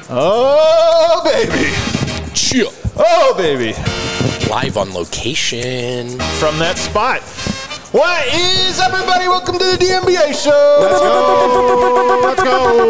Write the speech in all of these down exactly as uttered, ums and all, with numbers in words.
Oh, baby. Chill. Oh, baby. Live on location. From that spot. What is up, everybody? Welcome to the D M B A show. Let's go. Let's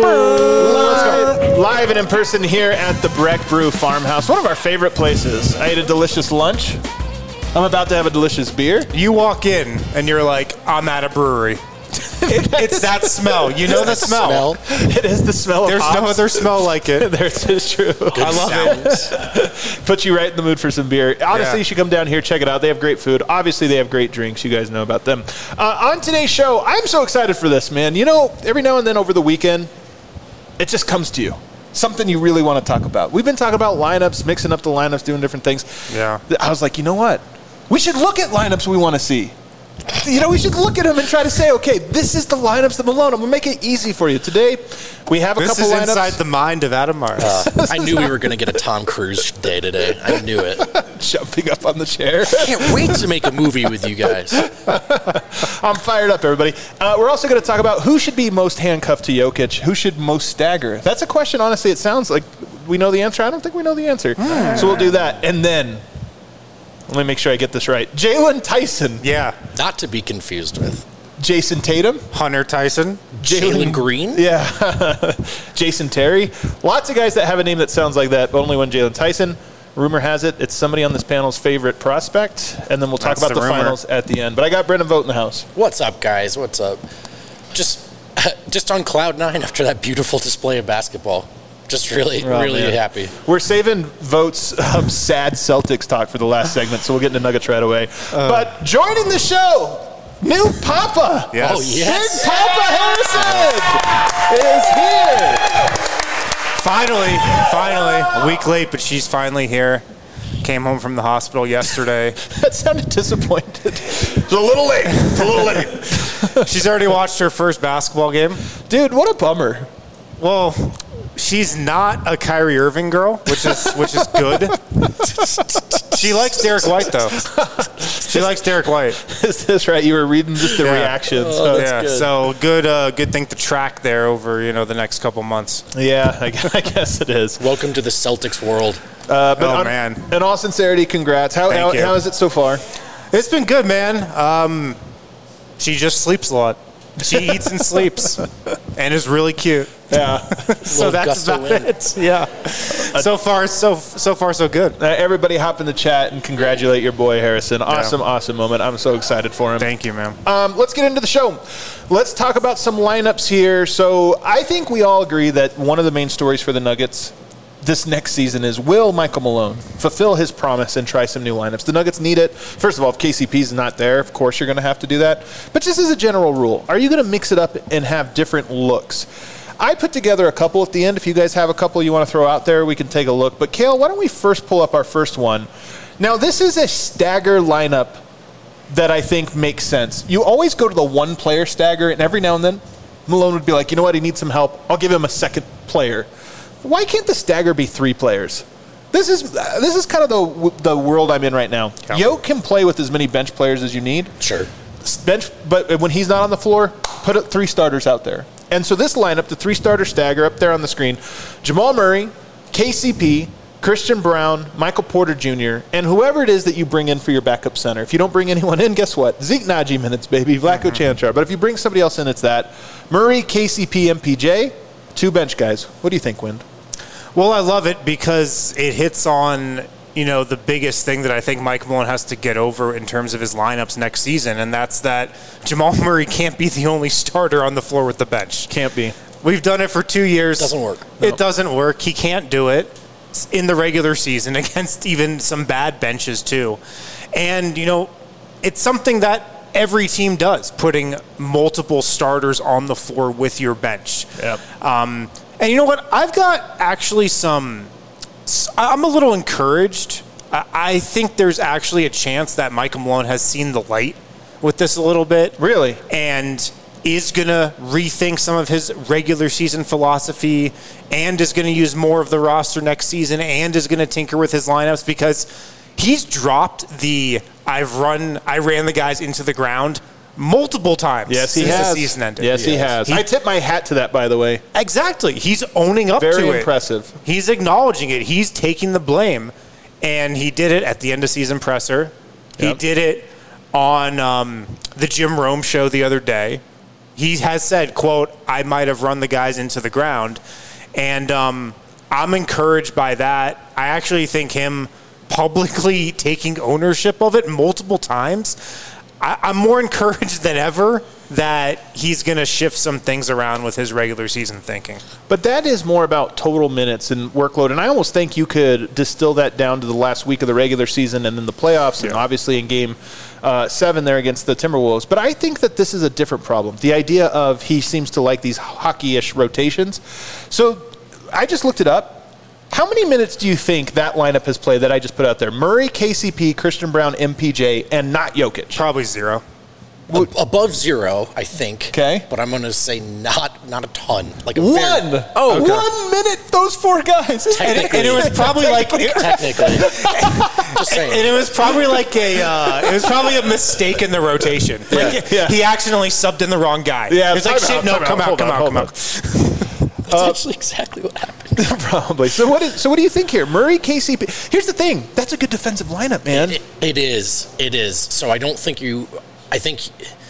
go. Live, live and in person here at the Breck Brew Farmhouse, one of our favorite places. I ate a delicious lunch. I'm about to have a delicious beer. You walk in and you're like, I'm at a brewery. It, it's that smell. You know the smell. Smell. It is the smell of There's hops. no other smell like it. There's, it's true. Good I love sounds. Put you right in the mood for some beer. Honestly, Yeah. you should come down here, check it out. They have great food. Obviously, they have great drinks. You guys know about them. Uh, on today's show, I'm so excited for this, man. You know, every now and then over the weekend, it just comes to you. Something you really want to talk about. We've been talking about lineups, mixing up the lineups, doing different things. Yeah. I was like, you know what? We should look at lineups we want to see. You know, we should look at them and try to say, okay, this is the lineups that Malone. I'm going to make it easy for you. Today, we have a This couple is lineups. inside the mind of Adam Mars. Uh, I knew we were going to get a Tom Cruise day today. I knew it. Jumping up on the chair. Can't wait to make a movie with you guys. I'm fired up, everybody. Uh, we're also going to talk about who should be most handcuffed to Jokic, who should most stagger. That's a question, honestly, it sounds like we know the answer. I don't think we know the answer. Mm. So we'll do that. And then, let me make sure I get this right. Jalen Tyson. Yeah. Not to be confused with Jason Tatum. Hunter Tyson. Jalen Green. Yeah. Jason Terry. Lots of guys that have a name that sounds like that, but only one Jalen Tyson. Rumor has it it's somebody on this panel's favorite prospect, and then we'll talk That's about the the, rumor. finals at the end. But I got Brendan Vogt in the house. What's up, guys? What's up? Just, just on cloud nine after that beautiful display of basketball. Just really, Oh, really man. happy. We're saving Vogt's um, sad Celtics talk for the last segment, so we'll get into Nuggets right away. Uh, but joining the show, new Papa. Yes. Oh, yes. Big Papa Harrison is here. Finally, finally. A week late, but she's finally here. Came home from the hospital yesterday. That sounded disappointed. It's a little late. It's a little late. She's already watched her first basketball game. Dude, what a bummer. Well, she's not a Kyrie Irving girl, which is which is good. She likes Derek White, though. She likes Derek White. Is this right? You were reading just the Yeah. reactions. Oh, that's yeah, good. so good, uh, good thing to track there over you know the next couple months. Yeah, I guess, I guess it is. Welcome to the Celtics world. Uh, but Oh, on, man. In all sincerity, congrats. How, Thank how, you. how is it so far? It's been good, man. Um, she just sleeps a lot. She eats and sleeps, and is really cute. Yeah. So Little that's gust of about wind. it. Yeah. So far, so so far, so good. Uh, everybody hop in the chat and congratulate your boy Harrison. Awesome, awesome moment. I'm so excited for him. Thank you, man. Um, let's get into the show. Let's talk about some lineups here. So I think we all agree that one of the main stories for the Nuggets this next season is, will Michael Malone fulfill his promise and try some new lineups? The Nuggets need it. First of all, if K C P's not there, of course you're going to have to do that. But just as a general rule, are you going to mix it up and have different looks? I put together a couple at the end. If you guys have a couple you want to throw out there, we can take a look. But Kale, why don't we first pull up our first one? Now, this is a stagger lineup that I think makes sense. You always go to the one player stagger, and every now and then Malone would be like, you know what, he needs some help. I'll give him a second player. Why can't the stagger be three players? This is uh, this is kind of the the world I'm in right now. Yeah. Yoke can play with as many bench players as you need. Sure. Bench, but when he's not on the floor, put it three starters out there. And so this lineup, the three starter stagger up there on the screen: Jamal Murray, K C P, Christian Brown, Michael Porter Junior, and whoever it is that you bring in for your backup center. If you don't bring anyone in, guess what? Zeke Naji minutes, baby. Vlatko mm-hmm. Chanchar. But if you bring somebody else in, it's that. Murray, K C P, M P J, two bench guys. What do you think, Wind? Well, I love it because it hits on, you know, the biggest thing that I think Mike Malone has to get over in terms of his lineups next season, and that's that Jamal Murray can't be the only starter on the floor with the bench. Can't be. We've done it for two years. Doesn't work. It No. doesn't work. He can't do it in the regular season against even some bad benches too. And, you know, it's something that every team does, putting multiple starters on the floor with your bench. Yep. Um, and you know what? I've got actually some – I'm a little encouraged. I, I think there's actually a chance that Michael Malone has seen the light with this a little bit. Really? And is going to rethink some of his regular season philosophy and is going to use more of the roster next season and is going to tinker with his lineups because he's dropped the I've run, I ran the guys into the ground multiple times Yes, he since has. the season ended. Yes, he has. He- I tip my hat to that, by the way. Exactly. He's owning up Very to it. impressive. He's acknowledging it. He's taking the blame. And he did it at the end of season presser. He Yep. did it on um, the Jim Rome show the other day. He has said, quote, I might have run the guys into the ground. And um, I'm encouraged by that. I actually think him publicly taking ownership of it multiple times, I, I'm more encouraged than ever that he's going to shift some things around with his regular season thinking. But that is more about total minutes and workload. And I almost think you could distill that down to the last week of the regular season and then the playoffs, and obviously in game uh, seven there against the Timberwolves. But I think that this is a different problem. The idea of he seems to like these hockey-ish rotations. So I just looked it up. How many minutes do you think that lineup has played that I just put out there? Murray, K C P, Christian Brown, M P J, and not Jokic. Probably zero. Ab- above zero, I think. Okay. But I'm going to say not not a ton. Like a One. Very, oh, okay. One minute, those four guys. And it, and it was probably like technically. Just saying. And it was probably like a uh, it was probably a mistake in the rotation. Like Yeah. he accidentally subbed in the wrong guy. Yeah, it was like time shit. out, No, time come out, out, hold come on, out, hold come on. out. That's actually exactly what happened. Probably. So what? Is, so what do you think here, Murray, K C P? Here's the thing. That's a good defensive lineup, man. It, it is. It is. So I don't think you. I think.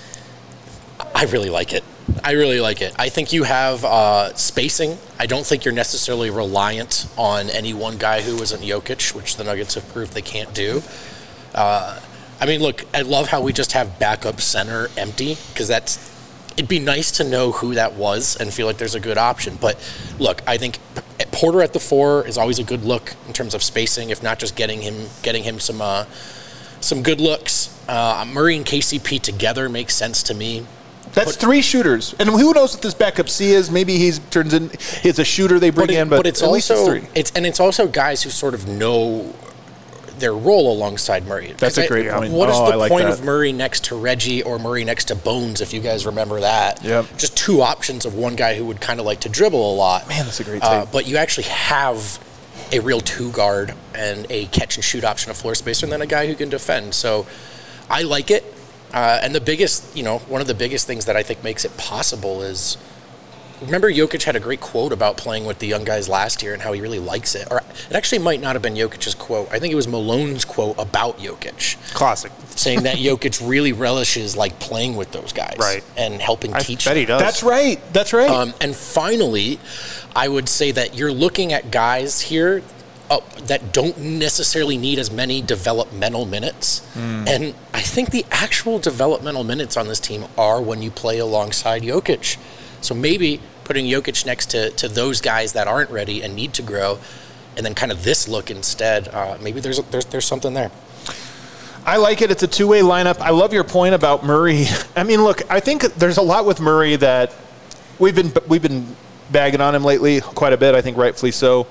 I really like it. I really like it. I think you have uh, spacing. I don't think you're necessarily reliant on any one guy who isn't Jokic, which the Nuggets have proved they can't do. Uh, I mean, look, I love how we just have backup center empty, because that's. It'd be nice to know who that was and feel like there's a good option. But look, I think Porter at the four is always a good look in terms of spacing, if not just getting him getting him some uh, some good looks. Uh, Murray and K C P together makes sense to me. That's But- three shooters, and who knows what this backup C is? Maybe he's turns in. He's a shooter they bring But, it- in, but, but it's at least also it's three. it's and it's also guys who sort of know their role alongside Murray. That's a 'Cause great I, point. What is Oh, the I like point that. of Murray next to Reggie or Murray next to Bones, if you guys remember that? Yep. Just two options of one guy who would kind of like to dribble a lot. Man, that's a great Uh, tape. but you actually have a real two guard and a catch and shoot option, a floor spacer, and then a guy who can defend. So I like it. Uh, and the biggest, you know, one of the biggest things that I think makes it possible is, remember Jokic had a great quote about playing with the young guys last year and how he really likes it. Or it actually might not have been Jokic's quote. I think it was Malone's quote about Jokic, Classic. saying that Jokic really relishes like playing with those guys, Right. and helping I teach bet them. he does. That's right. That's right. Um, and finally, I would say that you're looking at guys here uh, that don't necessarily need as many developmental minutes. And I think the actual developmental minutes on this team are when you play alongside Jokic. So maybe putting Jokic next to, to those guys that aren't ready and need to grow, and then kind of this look instead, uh, maybe there's, there's there's something there. I like it. It's a two-way lineup. I love your point about Murray. I mean, look, I think there's a lot with Murray that we've been we've been bagging on him lately quite a bit. I think rightfully so.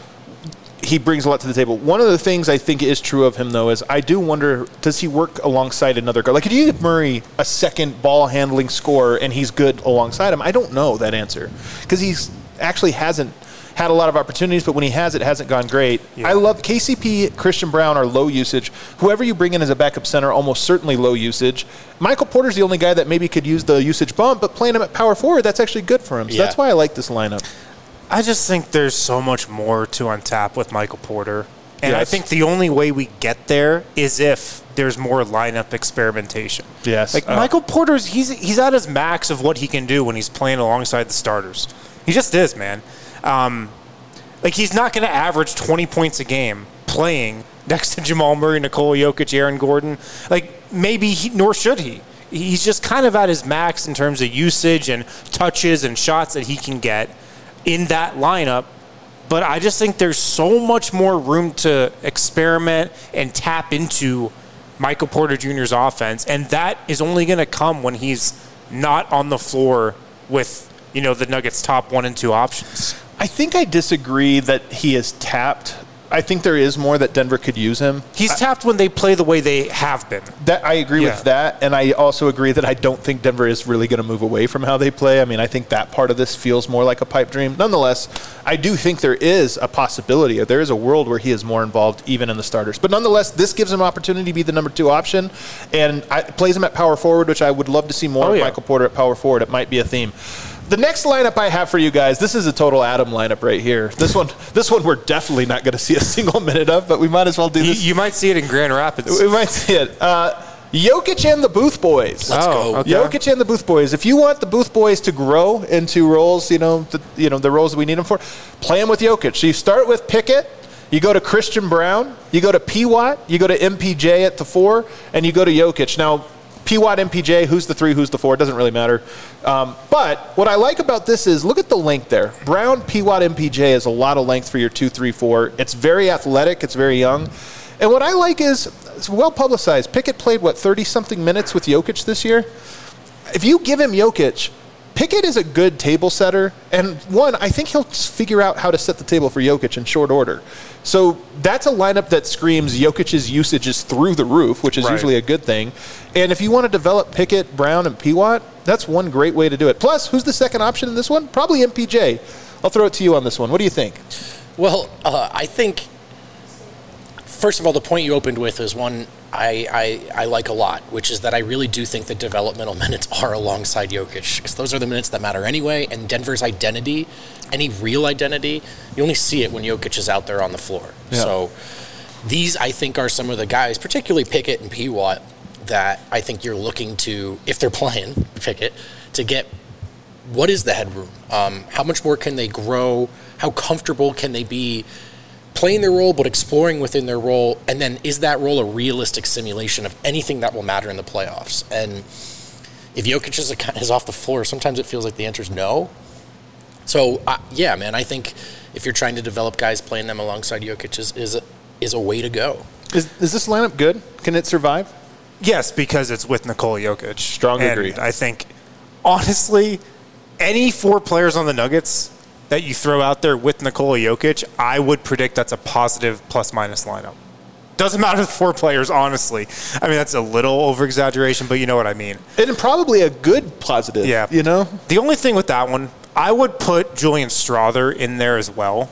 He brings a lot to the table. One of the things I think is true of him, though, is I do wonder, does he work alongside another guy? Like, could you give Murray a second ball-handling scorer and he's good alongside him? I don't know that answer because he's actually hasn't had a lot of opportunities, but when he has, it hasn't gone great. Yeah. I love K C P, Christian Brown are low usage. Whoever you bring in as a backup center, almost certainly low usage. Michael Porter's the only guy that maybe could use the usage bump, but playing him at power forward, that's actually good for him. So Yeah. that's why I like this lineup. I just think there's so much more to untap with Michael Porter. And I Yes. think the only way we get there is if there's more lineup experimentation. Yes. Like Uh, Michael Porter's, he's he's at his max of what he can do when he's playing alongside the starters. He just is, man. Um, like he's not going to average twenty points a game playing next to Jamal Murray, Nikola Jokic, Aaron Gordon. Like maybe he, nor should he. He's just kind of at his max in terms of usage and touches and shots that he can get in that lineup. But I just think there's so much more room to experiment and tap into Michael Porter Junior's offense, and that is only going to come when he's not on the floor with, you know, the Nuggets' top one and two options. I think I disagree that he is tapped I think there is more that Denver could use him. He's tapped when they play the way they have been. That I agree Yeah. with that, and I also agree that I don't think Denver is really going to move away from how they play. I mean, I think that part of this feels more like a pipe dream. Nonetheless, I do think there is a possibility, there is a world where he is more involved even in the starters. But nonetheless, this gives him opportunity to be the number two option, and I, plays him at power forward, which I would love to see more Oh, of yeah. Michael Porter at power forward. It might be a theme. The next lineup I have for you guys, this is a total Adam lineup right here. This one, this one we're definitely not going to see a single minute of, but we might as well do You, this. you might see it in Grand Rapids. We might see it. Uh, Jokic and the Booth Boys. Let's Oh, go. okay. Jokic and the Booth Boys. If you want the Booth Boys to grow into roles, you know, the, you know the roles that we need them for, play them with Jokic. So you start with Pickett, you go to Christian Brown, you go to P. Watt, you go to M P J at the four, and you go to Jokic. Now, P. Watt, M P J, who's the three, who's the four, it doesn't really matter. Um, but what I like about this is, look at the length there. Brown, P. Watt, M P J is a lot of length for your two, three, four. It's very athletic. It's very young. And what I like is, it's well publicized. Pickett played, what, thirty-something minutes with Jokic this year? If you give him Jokic, Pickett is a good table setter. And one, I think he'll figure out how to set the table for Jokic in short order. So that's a lineup that screams Jokic's usage is through the roof, which is Right. usually a good thing. And if you want to develop Pickett, Brown, and P. Watt, that's one great way to do it. Plus, who's the second option in this one? Probably M P J. I'll throw it to you on this one. What do you think? Well, uh, I think, first of all, the point you opened with is one I, I, I like a lot, which is that I really do think that developmental minutes are alongside Jokic, because those are the minutes that matter anyway, and Denver's identity, any real identity, you only see it when Jokic is out there on the floor. Yeah. So these, I think, are some of the guys, particularly Pickett and P. Watt, that I think you're looking to, if they're playing Pickett, to get what is the headroom? Um, how much more can they grow? How comfortable can they be playing their role but exploring within their role? And then is that role a realistic simulation of anything that will matter in the playoffs? And if Jokic is, a, is off the floor, sometimes it feels like the answer is no. So, uh, yeah, man, I think if you're trying to develop guys, playing them alongside Jokic is, is, a, is a way to go. Is, is this lineup good? Can it survive? Yes, because it's with Nikola Jokic. Strong and agree. I think, honestly, any four players on the Nuggets that you throw out there with Nikola Jokic, I would predict that's a positive plus-minus lineup. Doesn't matter the four players, honestly. I mean, that's a little over-exaggeration, but you know what I mean. And probably a good positive, Yeah. you know? The only thing with that one, I would put Julian Strother in there as well.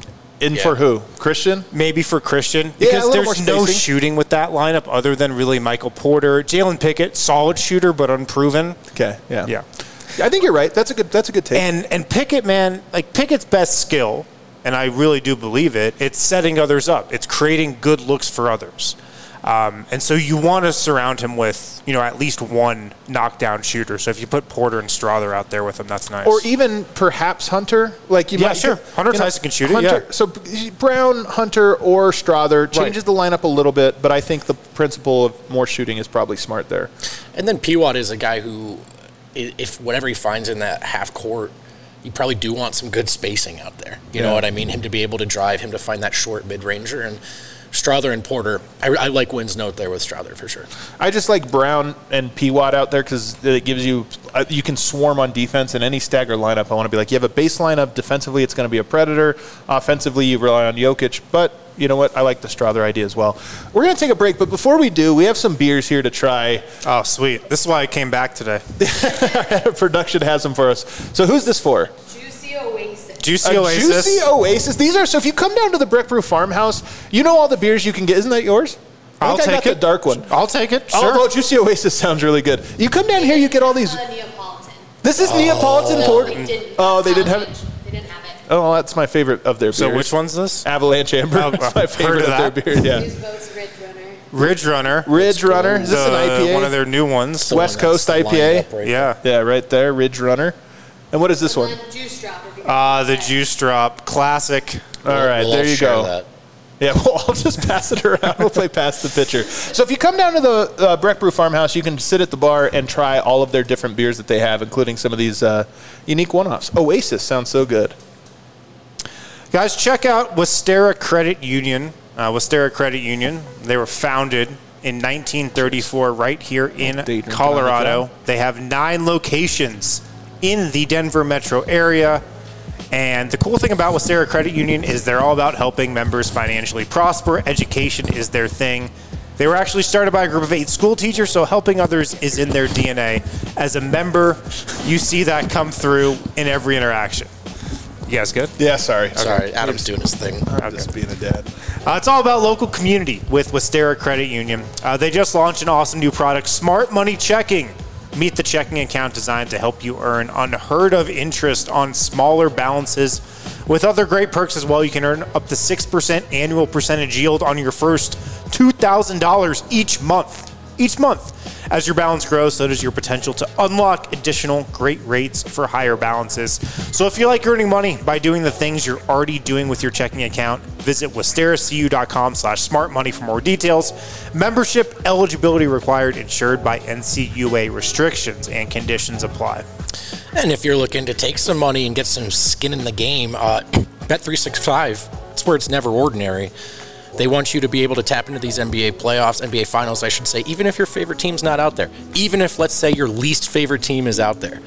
In Yeah. for who? Christian? Maybe for Christian, Yeah, a because little there's more no spacing. shooting with that lineup other than really Michael Porter. Jalen Pickett, solid shooter, but unproven. Okay, yeah. Yeah. I think you're right. That's a good that's a good take. And and Pickett, man, like Pickett's best skill, and I really do believe it, it's setting others up. It's creating good looks for others. Um, and so you want to surround him with, you know, at least one knockdown shooter. So if you put Porter and Strother out there with him, that's nice. or even perhaps Hunter. Like you Yeah, might, sure. Hunter you know, Tyson can shoot it, Hunter, yeah. So Brown, Hunter, or Strother changes the lineup a little bit, but I think the principle of more shooting is probably smart there. And then P. Watt is a guy who, i- if whatever he finds in that half court, you probably do want some good spacing out there. You Yeah. know what I mean? Him to be able to drive, him to find that short mid-ranger. And Strother and Porter, I, I like Wynn's note there with Strother for sure. I just like Brown and P. Watt out there because it gives you uh, you can swarm on defense in any stagger lineup. I want to be like, you have a baseline of defensively, it's going to be a predator. Offensively, you rely on Jokic, but you know what? I like the Strother idea as well. We're going to take a break, but before we do, we have some beers here to try. oh, sweet. This is why I came back today. Production has them for us. So who's this for? Juicy Oasis. Juicy A Oasis. Juicy Oasis. These are, so if you come down to the Brick Brew Farmhouse, you know all the beers you can get. Isn't that yours? I I'll think I take got it. the dark one. I'll take it. Oh, Sure. well, Juicy Oasis sounds really good. You come down here, you get all these. Uh, Neapolitan. This is Neapolitan No, porter. they didn't. Oh, they didn't have Salvage. it? They didn't have it. Oh, well, that's my favorite of their beers. So which one's this? Avalanche Amber. Oh, That's my I've favorite heard of, of their that. beer. Yeah. Who's votes Ridge Runner? Ridge Runner. Ridge Runner. Is this an The- I P A? One of their new ones. The West one Coast that's I P A? lined up right Yeah. Yeah, right there. Ridge Runner. And what is this one? And then Juice Drop. if you're Ah, gonna the do that. Juice Drop. Classic. All right, We'll there all you share go. that. Yeah, well, I'll just pass it around. We'll play past the pitcher. So if you come down to the uh, Breck Brew Farmhouse, you can sit at the bar and try all of their different beers that they have, including some of these uh, unique one-offs. Oasis sounds so good. Guys, check out Westera Credit Union. Uh, Westera Credit Union. They were founded in nineteen thirty-four right here in Daydream Colorado. Comic-Con. They have nine locations in the Denver metro area. And the cool thing about Westera Credit Union is they're all about helping members financially prosper. Education is their thing. They were actually started by a group of eight school teachers, so helping others is in their D N A. As a member, you see that come through in every interaction. You guys good? Yeah, sorry. Sorry, Adam's doing his thing. I'm just being a dad. Uh, it's all about local community with Westera Credit Union. Uh, they just launched an awesome new product, Smart Money Checking. Meet the checking account designed to help you earn unheard of interest on smaller balances. With other great perks as well, you can earn up to six percent annual percentage yield on your first two thousand dollars each month. Each month. As your balance grows, so does your potential to unlock additional great rates for higher balances. So if you like earning money by doing the things you're already doing with your checking account, visit westeracu.com slash smart money for more details. Membership eligibility required, insured by N C U A. Restrictions and conditions apply. And if you're looking to take some money and get some skin in the game, uh, Bet three sixty-five, it's where it's never ordinary. They want you to be able to tap into these N B A playoffs, N B A finals, I should say, even if your favorite team's not out there. Even if, let's say, your least favorite team is out there.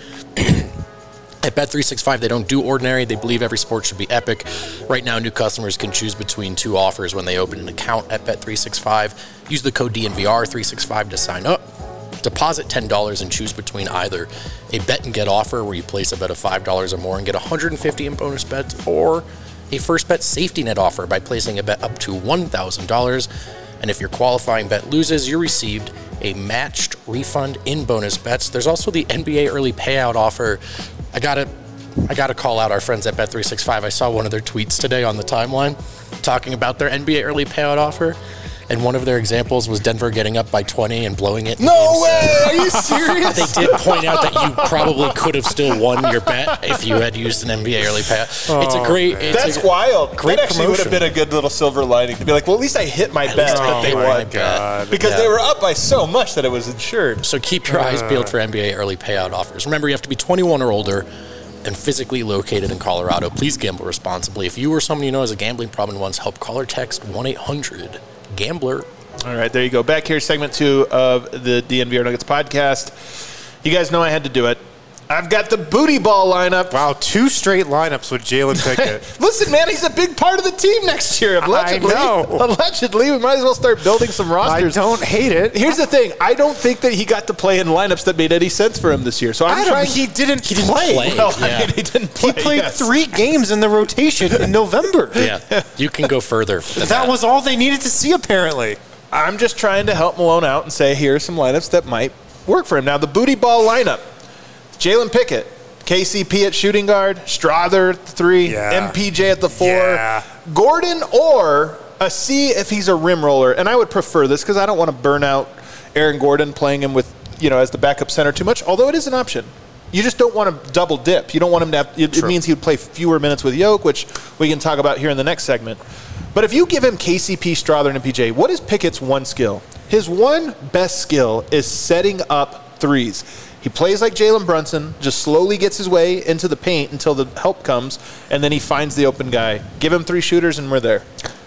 At Bet three sixty-five, they don't do ordinary. They believe every sport should be epic. Right now, new customers can choose between two offers when they open an account at Bet three sixty-five. Use the code D N V R three sixty-five to sign up. Deposit ten dollars and choose between either a bet and get offer where you place a bet of five dollars or more and get one hundred fifty dollars in bonus bets, or a first bet safety net offer by placing a bet up to one thousand dollars. And if your qualifying bet loses, you're received a matched refund in bonus bets. There's also the N B A early payout offer. I gotta, I gotta call out our friends at Bet three sixty-five. I saw one of their tweets today on the timeline talking about their N B A early payout offer. And one of their examples was Denver getting up by twenty and blowing it. No way! Are you serious? They did point out that you probably could have still won your bet if you had used an N B A early payout. Oh, it's a great. It's That's a, wild. Great that actually would have promotion. been a good little silver lining to be like, well, at least I hit my At bet least I that they hit my won. bet. Because Yeah. they were up by so much that it was insured. So keep your eyes peeled for N B A early payout offers. Remember, you have to be twenty-one or older and physically located in Colorado. Please gamble responsibly. If you or someone you know has a gambling problem and wants help, call or text one eight hundred gambler. All right, there you go. Back here, segment two of the D N V R Nuggets podcast. You guys know I had to do it. I've got the booty ball lineup. Wow, two straight lineups with Jalen Pickett. Listen, man, he's a big part of the team next year. Allegedly, I know. Allegedly, we might as well start building some I rosters. don't hate it. Here's the thing. I don't think that he got to play in lineups that made any sense for him this year. So I'm Adam, trying. he didn't, He didn't play. play. Well, I Yeah. mean, he didn't play. He played yes. three games in the rotation in November. Yeah, you can go further. Than That was all they needed to see, apparently. I'm just trying to help Malone out and say, here are some lineups that might work for him. Now, the booty ball lineup. Jalen Pickett, K C P at shooting guard, Strother at the three, Yeah. M P J at the four, Yeah. Gordon or a C if he's a rim roller. And I would prefer this because I don't want to burn out Aaron Gordon playing him with, you know, as the backup center too much, although it is an option. You just don't want to double dip. You don't want him to have, it, it True. means he would play fewer minutes with Yoke, which we can talk about here in the next segment. But if you give him K C P, Strother, and M P J, what is Pickett's one skill? His one best skill is setting up threes. He plays like Jalen Brunson, just slowly gets his way into the paint until the help comes, and then he finds the open guy. Give him three shooters, and we're there.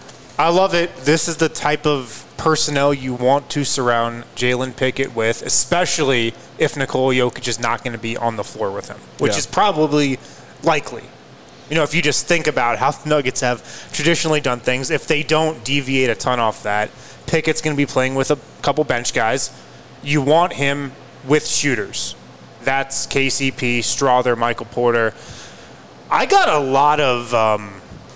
I love it. This is the type of personnel you want to surround Jalen Pickett with, especially if Nikola Jokic is not going to be on the floor with him, which Yeah. is probably likely. You know, if you just think about how the Nuggets have traditionally done things, if they don't deviate a ton off that, Pickett's going to be playing with a couple bench guys. You want him with shooters. That's K C P, Strother, Michael Porter. I got a lot of um,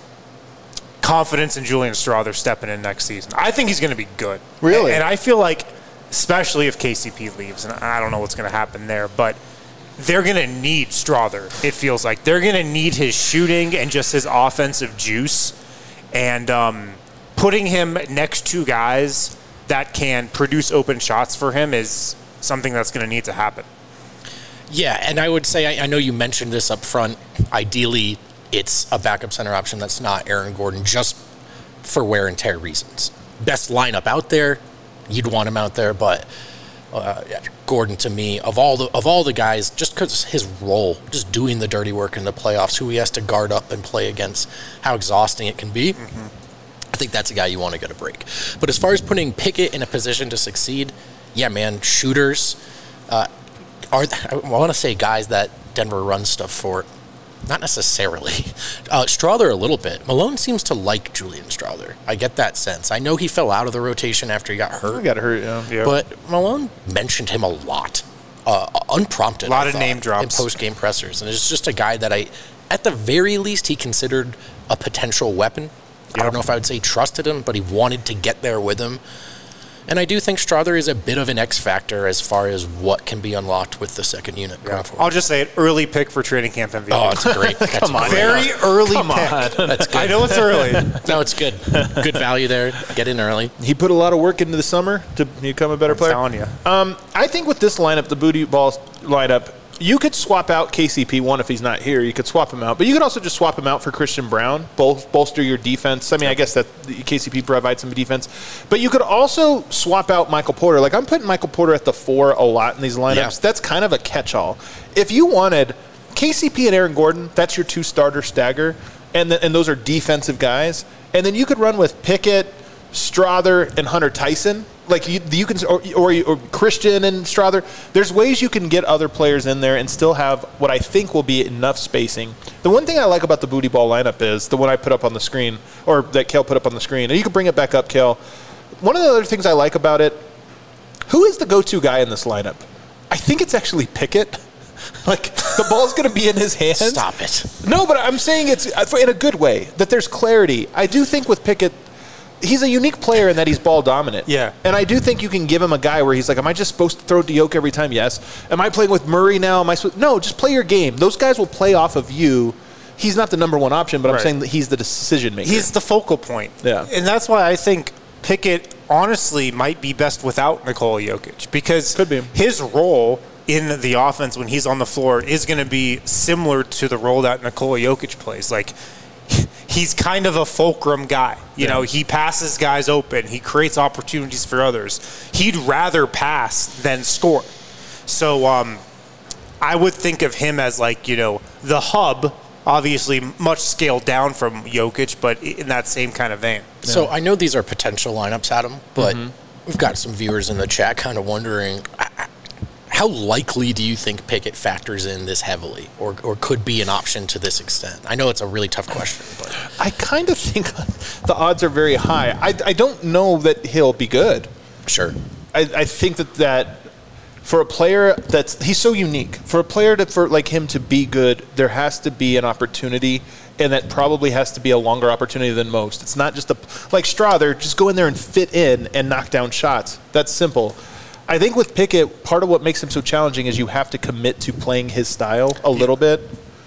confidence in Julian Strother stepping in next season. I think he's going to be good. Really? And I feel like, especially if K C P leaves, and I don't know what's going to happen there, but they're going to need Strother, it feels like. They're going to need his shooting and just his offensive juice. And um, putting him next to guys that can produce open shots for him is something that's going to need to happen. Yeah, and I would say, I, I know you mentioned this up front. Ideally, it's a backup center option that's not Aaron Gordon, just for wear and tear reasons. Best lineup out there, you'd want him out there, but uh, yeah, Gordon, to me, of all the of all the guys, just because his role, just doing the dirty work in the playoffs, who he has to guard up and play against, how exhausting it can be. Mm-hmm. I think that's a guy you want to get a break. But as far as putting Pickett in a position to succeed, yeah, man, shooters. Uh, are I want to say guys that Denver runs stuff for. Not necessarily. Uh, Strawther a little bit. Malone seems to like Julian Strawther. I get that sense. I know he fell out of the rotation after he got hurt. He got hurt, yeah. Yeah. But Malone mentioned him a lot, uh, unprompted. A lot I of thought, name drops. in post-game pressers, and it's just a guy that I, at the very least, he considered a potential weapon. I don't know if I would say trusted him, but he wanted to get there with him. And I do think Strawther is a bit of an X factor as far as what can be unlocked with the second unit going forward. I'll just say it, early pick for training camp M V P. Oh, it's great. That's Come on. great. Very early Come pick. on. That's good. I know it's early. No, it's good. Good value there. Get in early. He put a lot of work into the summer to become a better I'm player. telling you. Um, I think with this lineup, the booty ball lineup, you could swap out K C P one if he's not here. You could swap him out, but you could also just swap him out for Christian Brown, bol- bolster your defense. I mean, I guess that the K C P provides some defense, but you could also swap out Michael Porter. Like I'm putting Michael Porter at the four a lot in these lineups. Yeah. That's kind of a catch-all. If you wanted K C P and Aaron Gordon, that's your two starter stagger, and th- and those are defensive guys, and then you could run with Pickett, Strawther, and Hunter Tyson. Like you, you can, or, or, or Christian and Strawther. There's ways you can get other players in there and still have what I think will be enough spacing. The one thing I like about the booty ball lineup is the one I put up on the screen, or that Kale put up on the screen, and you can bring it back up, Kale. One of the other things I like about it, who is the go-to guy in this lineup? I think it's actually Pickett. Like the ball's going to be in his hands. Stop it. No, but I'm saying it's in a good way, that there's clarity. I do think with Pickett, he's a unique player in that he's ball dominant. Yeah. And I do think you can give him a guy where he's like, am I just supposed to throw to Yoke every time? Yes. Am I playing with Murray now? Am I supposed? No, just play your game. Those guys will play off of you. He's not the number one option, but I'm Right. saying that he's the decision maker. He's the focal point. Yeah. And that's why I think Pickett honestly might be best without Nikola Jokic, because Could be. his role in the offense when he's on the floor is going to be similar to the role that Nikola Jokic plays. Like, he's kind of a fulcrum guy. You Yeah. know, he passes guys open. He creates opportunities for others. He'd rather pass than score. So um, I would think of him as like, you know, the hub, obviously much scaled down from Jokic, but in that same kind of vein. So I know these are potential lineups, Adam, but Mm-hmm. we've got some viewers in the chat kind of wondering, uh, how likely do you think Pickett factors in this heavily, or or could be an option to this extent? I know it's a really tough question, but I kind of think the odds are very high. I, I don't know that he'll be good. sure. I, I think that that for a player that's he's so unique, for a player to for like him to be good, there has to be an opportunity, and that probably has to be a longer opportunity than most. It's not just a like Strawther, just go in there and fit in and knock down shots. That's simple. I think with Pickett, part of what makes him so challenging is you have to commit to playing his style a little bit,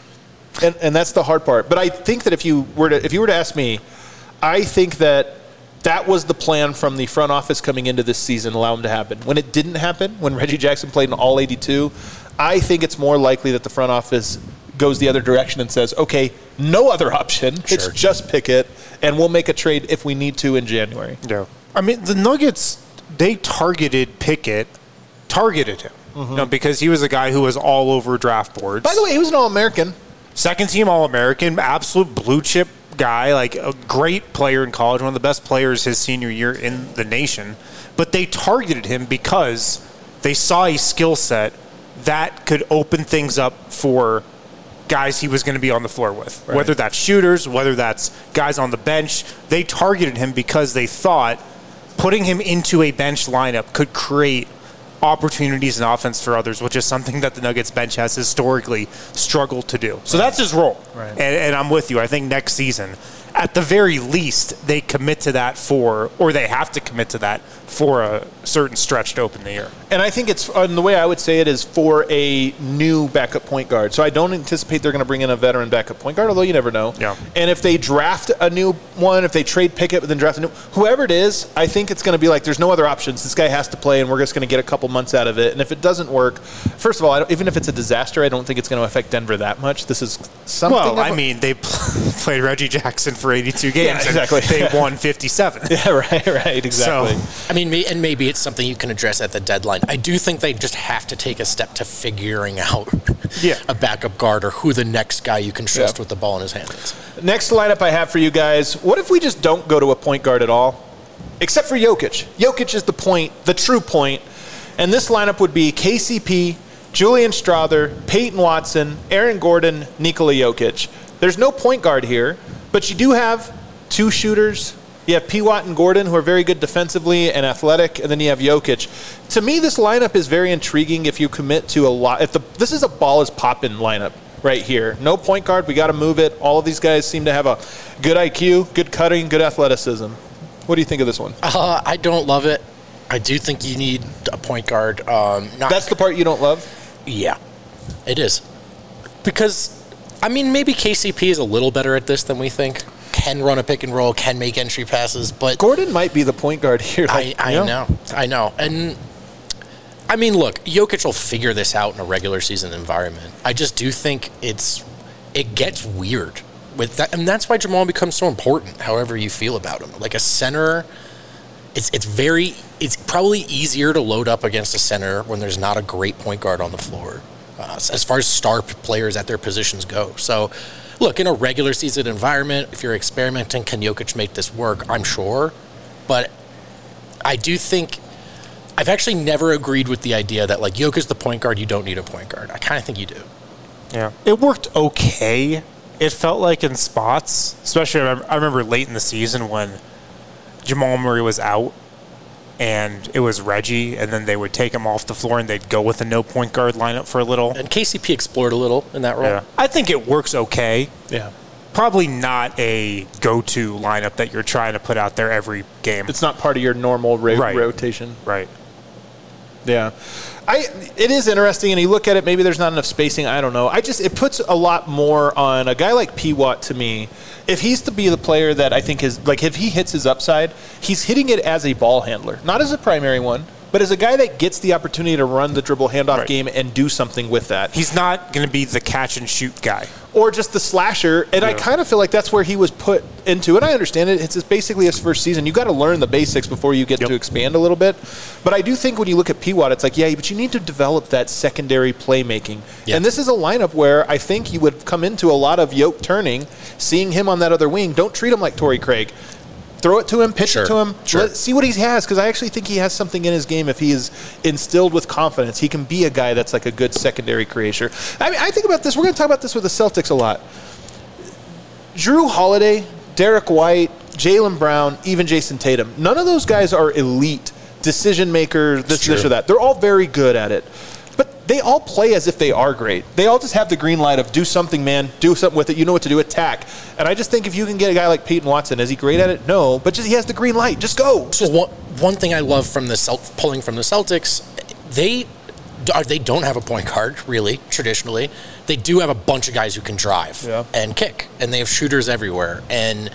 and and that's the hard part. But I think that if you were to if you were to ask me, I think that that was the plan from the front office coming into this season, allow him to happen. When it didn't happen, when Reggie Jackson played in all eighty-two, I think it's more likely that the front office goes the other direction and says, okay, no other option. It's Sure. just Pickett, and we'll make a trade if we need to in January. Yeah. I mean, the Nuggets, they targeted Pickett, targeted him, you know, because he was a guy who was all over draft boards. By the way, he was an All-American. Second team All-American, absolute blue chip guy, like a great player in college, one of the best players his senior year in the nation. But they targeted him because they saw a skill set that could open things up for guys he was going to be on the floor with. Right. Whether that's shooters, whether that's guys on the bench, they targeted him because they thought putting him into a bench lineup could create opportunities in offense for others, which is something that the Nuggets bench has historically struggled to do. So that's his role. Right. And, and I'm with you. I think next season, at the very least, they commit to that for, or they have to commit to that for a certain stretch to open the year. And I think it's, and the way I would say it is for a new backup point guard. So I don't anticipate they're going to bring in a veteran backup point guard, although you never know. Yeah. And if they draft a new one, if they trade Pickett but then draft a new, whoever it is, I think it's going to be like there's no other options. This guy has to play, and we're just going to get a couple months out of it. And if it doesn't work, first of all, I don't, even if it's a disaster, I don't think it's going to affect Denver that much. This is something. Well, of I a- mean, they played Reggie Jackson for eighty-two games. Yeah, exactly. And they won fifty-seven. Yeah, right, right, exactly. So, I mean, may- and maybe it's something you can address at the deadline. I do think they just have to take a step to figuring out Yeah. a backup guard or who the next guy you can trust Yeah. with the ball in his hand is. Next lineup I have for you guys, what if we just don't go to a point guard at all? Except for Jokic. Jokic is the point, the true point. And this lineup would be K C P, Julian Strother, Peyton Watson, Aaron Gordon, Nikola Jokic. There's no point guard here, but you do have two shooters. You have P. Watt and Gordon, who are very good defensively and athletic, and then you have Jokic. To me, this lineup is very intriguing if you commit to a lot. If the this is a ball is popping lineup right here. No point guard. We got to move it. All of these guys seem to have a good I Q, good cutting, good athleticism. What do you think of this one? Uh, I don't love it. I do think you need a point guard. Um, not That's the part you don't love? Yeah, it is. Because, I mean, maybe K C P is a little better at this than we think. Can run a pick and roll, can make entry passes, but Gordon might be the point guard here. I, I you know, I know. And, I mean, look, Jokic will figure this out in a regular season environment. I just do think it's it gets weird with that, and that's why Jamal becomes so important, however you feel about him. Like a center, it's it's very, it's probably easier to load up against a center when there's not a great point guard on the floor, uh, as far as star players at their positions go. So, look, in a regular season environment, if you're experimenting, can Jokic make this work? I'm sure. But I do think I've actually never agreed with the idea that, like, Jokic's the point guard, you don't need a point guard. I kind of think you do. Yeah. It worked okay. It felt like in spots, especially I remember, I remember late in the season when Jamal Murray was out and it was Reggie, and then they would take him off the floor and they'd go with a no point guard lineup for a little. And K C P explored a little in that role. Yeah. I think it works okay. Yeah. Probably not a go-to lineup that you're trying to put out there every game. It's not part of your normal ro- Right. rotation. Right. Yeah. I it is interesting, and you look at it, maybe there's not enough spacing, I don't know. I just, it puts a lot more on a guy like P. Watt to me. If he's to be the player that I think is, like, if he hits his upside, he's hitting it as a ball handler, not as a primary one, but as a guy that gets the opportunity to run the dribble handoff Right. game and do something with that. He's not going to be the catch and shoot guy. Or just the slasher, and I Yeah. kind of feel like that's where he was put into it. I understand it. It's basically his first season. You got to learn the basics before you get Yep. to expand a little bit. But I do think when you look at P. Watt, it's like, yeah, but you need to develop that secondary playmaking. Yeah. And this is a lineup where I think you would come into a lot of yoke turning, seeing him on that other wing. Don't treat him like Torrey Craig. Throw it to him, pitch Sure. it to him, Sure. let, see what he has, because I actually think he has something in his game. If he is instilled with confidence, he can be a guy that's like a good secondary creator. I mean, I think about this. We're going to talk about this with the Celtics a lot. Drew Holiday, Derek White, Jaylen Brown, even Jason Tatum. None of those guys are elite decision makers, this, this, true. or that. They're all very good at it. But they all play as if they are great. They all just have the green light of do something, man, do something with it. You know what to do, attack. And I just think if you can get a guy like Peyton Watson, is he great at it? No, but just he has the green light. Just go. So one, one thing I love from the Celt- pulling from the Celtics, they they don't have a point guard, really, traditionally. They do have a bunch of guys who can drive Yeah. and kick, and they have shooters everywhere. And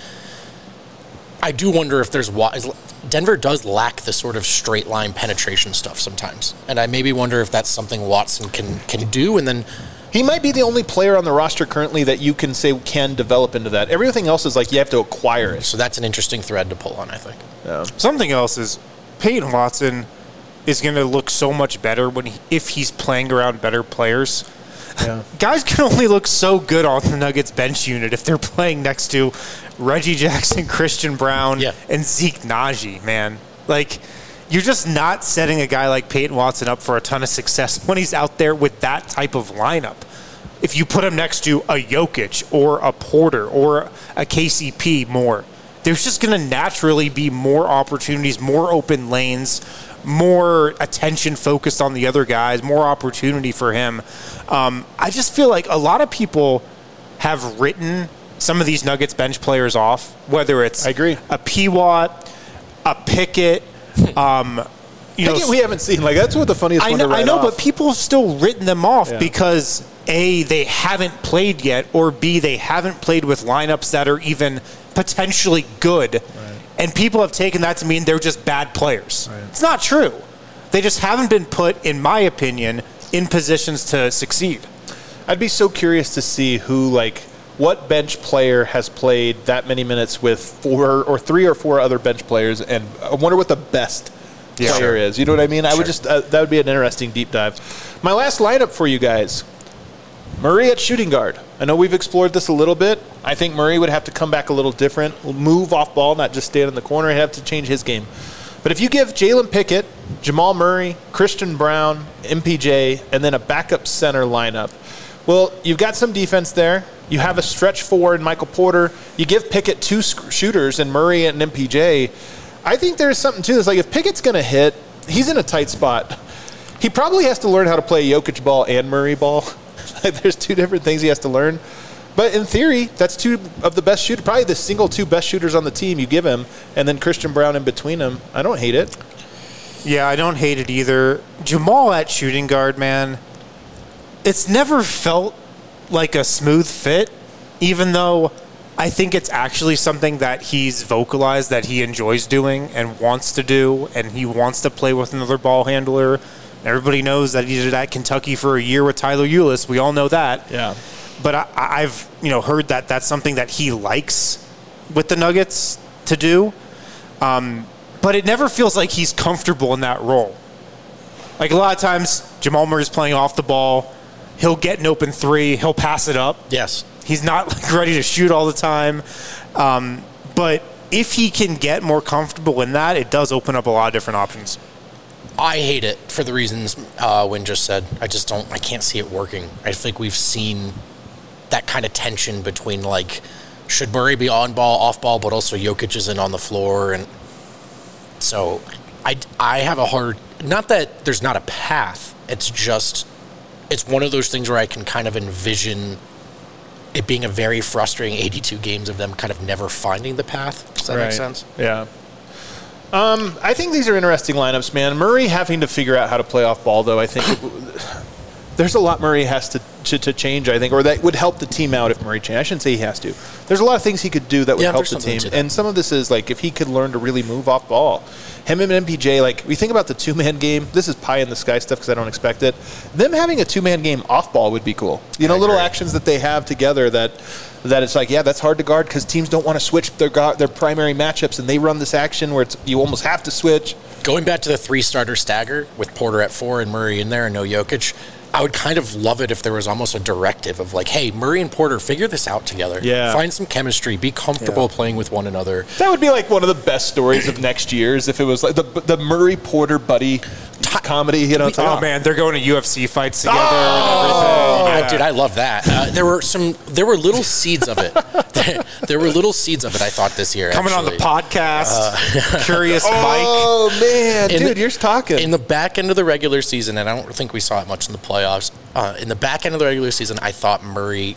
I do wonder if there's wa- Denver does lack the sort of straight line penetration stuff sometimes, and I maybe wonder if that's something Watson can can do. And then He might be the only player on the roster currently that you can say can develop into that. Everything else is like you have to acquire it. so that's an interesting thread to pull on, I think. Yeah. Something else is Peyton Watson is going to look so much better when he, if he's playing around better players. Yeah. Guys can only look so good on the Nuggets bench unit if they're playing next to Reggie Jackson, Christian Brown, Yeah. and Zeke Naji, man. Like, you're just not setting a guy like Peyton Watson up for a ton of success when he's out there with that type of lineup. If you put him next to a Jokic or a Porter or a K C P more, there's just going to naturally be more opportunities, more open lanes, more attention focused on the other guys, more opportunity for him. Um, I just feel like a lot of people have written some of these Nuggets bench players off, whether it's I agree. a P. Watt, a Pickett. Um, you know, Pickett we haven't seen. Like that's what the funniest I one know, to write I know off. but people have still written them off Yeah. because A, they haven't played yet, or B, they haven't played with lineups that are even potentially good. Right. And people have taken that to mean they're just bad players. Right. It's not true. They just haven't been put, in my opinion, in positions to succeed. I'd be so curious to see who, like, what bench player has played that many minutes with four or three or four other bench players, and I wonder what the best Yeah. player Sure. is. You know what I mean? I Sure. would just uh, that would be an interesting deep dive. My last lineup for you guys: Murray at shooting guard. I know we've explored this a little bit. I think Murray would have to come back a little different, move off ball, not just stand in the corner. He'd have to change his game. But if you give Jalen Pickett, Jamal Murray, Christian Brown, M P J, and then a backup center lineup, well, you've got some defense there. You have a stretch four in Michael Porter. You give Pickett two sc- shooters in Murray and M P J. I think there's something to this. Like, if Pickett's going to hit, he's in a tight spot. He probably has to learn how to play Jokic ball and Murray ball. There's two different things he has to learn. But in theory, that's two of the best shooters, probably the single two best shooters on the team you give him, and then Christian Brown in between them. I don't hate it. Yeah, I don't hate it either. Jamal at shooting guard, man, it's never felt like a smooth fit, even though I think it's actually something that he's vocalized that he enjoys doing and wants to do, and he wants to play with another ball handler. Everybody knows that he did at Kentucky for a year with Tyler Ulis. We all know that. Yeah. But I, I've you know heard that that's something that he likes with the Nuggets to do. Um, but it never feels like he's comfortable in that role. Like a lot of times, Jamal Murray's playing off the ball. He'll get an open three. He'll pass it up. Yes. He's not like ready to shoot all the time. Um, but if he can get more comfortable in that, it does open up a lot of different options. I hate it for the reasons uh, Wynn just said. I just don't, I can't see it working. I think we've seen that kind of tension between, like, should Murray be on ball, off ball, but also Jokic isn't on the floor. And so I, I have a hard, not that there's not a path, it's just, it's one of those things where I can kind of envision it being a very frustrating eighty-two games of them kind of never finding the path. Does that Right. make sense? Yeah. Um, I think these are interesting lineups, man. Murray having to figure out how to play off ball, though, I think it, there's a lot Murray has to, to to change, I think, or that would help the team out if Murray changed. I shouldn't say he has to. There's a lot of things he could do that would Yeah, help there's the something team. to that. And some of this is, like, if he could learn to really move off ball. Him and M P J, like, we think about the two-man game. This is pie-in-the-sky stuff because I don't expect it. Them having a two-man game off ball would be cool. You know, I little agree. actions that they have together that that it's like, yeah, that's hard to guard because teams don't want to switch their go- their primary matchups, and they run this action where it's you almost have to switch. Going back to the three-starter stagger with Porter at four and Murray in there and no Jokic, I would kind of love it if there was almost a directive of like, hey, Murray and Porter, figure this out together. Yeah. Find some chemistry. Be comfortable Yeah. playing with one another. That would be like one of the best stories of next year's if it was like the the Murray Porter buddy comedy. You know, it's like, Oh, man, they're going to U F C fights together Oh! and everything. Uh, dude, I love that. Uh, there were some, there were little seeds of it. there, there were little seeds of it, I thought, this year. Coming actually. on the podcast, Curious Mike. oh man, In dude, the- you're talking. In the back end of the regular season, and I don't think we saw it much in the playoffs, uh, in the back end of the regular season, I thought Murray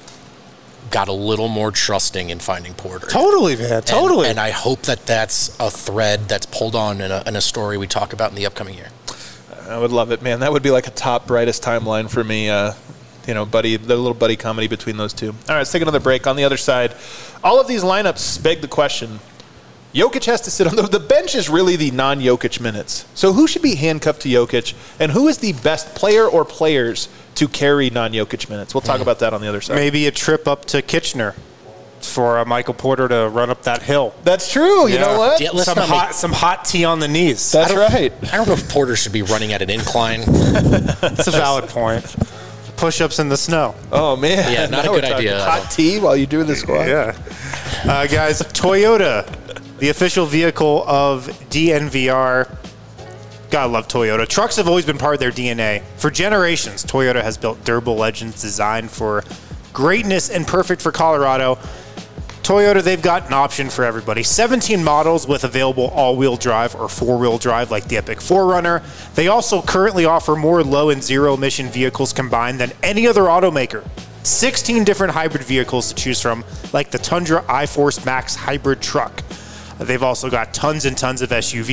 got a little more trusting in finding Porter. Totally, man. And- Totally. And, I hope that that's a thread that's pulled on in a, in a story we talk about in the upcoming year. I would love it, man. That would be like a top brightest timeline for me. Uh, you know, buddy, the little buddy comedy between those two. All right, let's take another break. On the other side, all of these lineups beg the question. Jokic has to sit on the, the bench is really the non-Jokic minutes. So who should be handcuffed to Jokic, and who is the best player or players to carry non-Jokic minutes? We'll talk about that on the other side. Maybe a trip up to Kitchener for uh, Michael Porter to run up that hill. That's true. You Yeah. know what? Yeah, let's Some not hot, make- some hot tea on the knees. That's right. I don't know if Porter should be running at an incline. That's a valid point. Push-ups in the snow. Oh man, Yeah, not a Now we're good talking idea. Hot tea while you do the squat. Yeah. Uh, guys, Toyota, the official vehicle of D N V R. Gotta love Toyota. Trucks have always been part of their D N A. For generations, Toyota has built durable legends designed for greatness and perfect for Colorado. Toyota, they've got an option for everybody. seventeen models with available all-wheel drive or four-wheel drive like the Epic four runner. They also currently offer more low and zero-emission vehicles combined than any other automaker. sixteen different hybrid vehicles to choose from, like the Tundra iForce Max hybrid truck. They've also got tons and tons of S U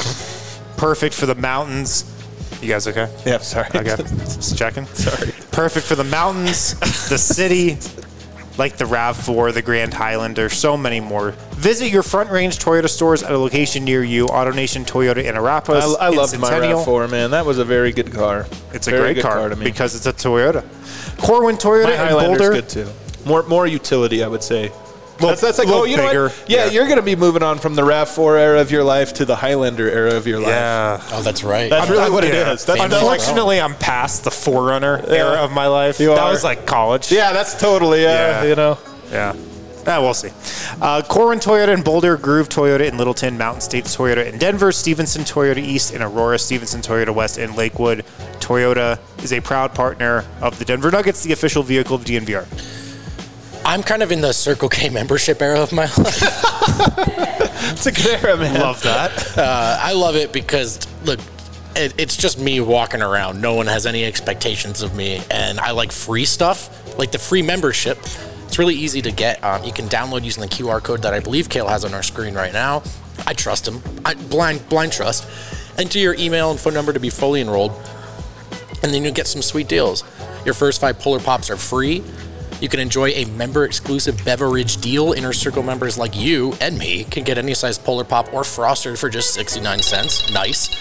Vs, perfect for the mountains. You guys okay? Yeah, sorry. Okay, just checking. Sorry. Perfect for the mountains, the city, like the RAV four, the Grand Highlander, so many more. Visit your Front Range Toyota stores at a location near you. AutoNation Toyota in Arapahoe. I, I in loved my Centennial. RAV four, man. That was a very good car. It's a Very great good car, to me. because it's a Toyota. Corwin Toyota My in Highlander's Boulder. good too. More more utility, I would say. Little- That's, that's like, little oh, you know bigger. what? Yeah, Yeah. you're going to be moving on from the RAV four era of your life to the Highlander era of your life. Yeah. Oh, that's right. That's really what it Yeah. is. That's, Family that's like, Unfortunately, I'm past the Forerunner era of my life. You that are. was like college. yeah, that's totally, uh, Yeah. you know. Yeah. Ah, we'll see. Uh, Corwin Toyota in Boulder, Groove Toyota in Littleton, Mountain State Toyota in Denver, Stevenson Toyota East in Aurora, Stevenson Toyota West in Lakewood. Toyota is a proud partner of the Denver Nuggets, the official vehicle of D N V R. I'm kind of in the Circle K membership era of my life. It's a good era, man. Love that. Uh, I love it because, look, it, it's just me walking around. No one has any expectations of me, and I like free stuff, like the free membership. It's really easy to get. Um, you can download using the Q R code that I believe Kale has on our screen right now. I trust him. I, blind, blind trust. Enter your email and phone number to be fully enrolled, and then you'll get some sweet deals. Your first five Polar Pops are free. You can enjoy a member-exclusive beverage deal. Inner Circle members like you and me can get any size Polar Pop or Frosted for just sixty-nine cents. Nice.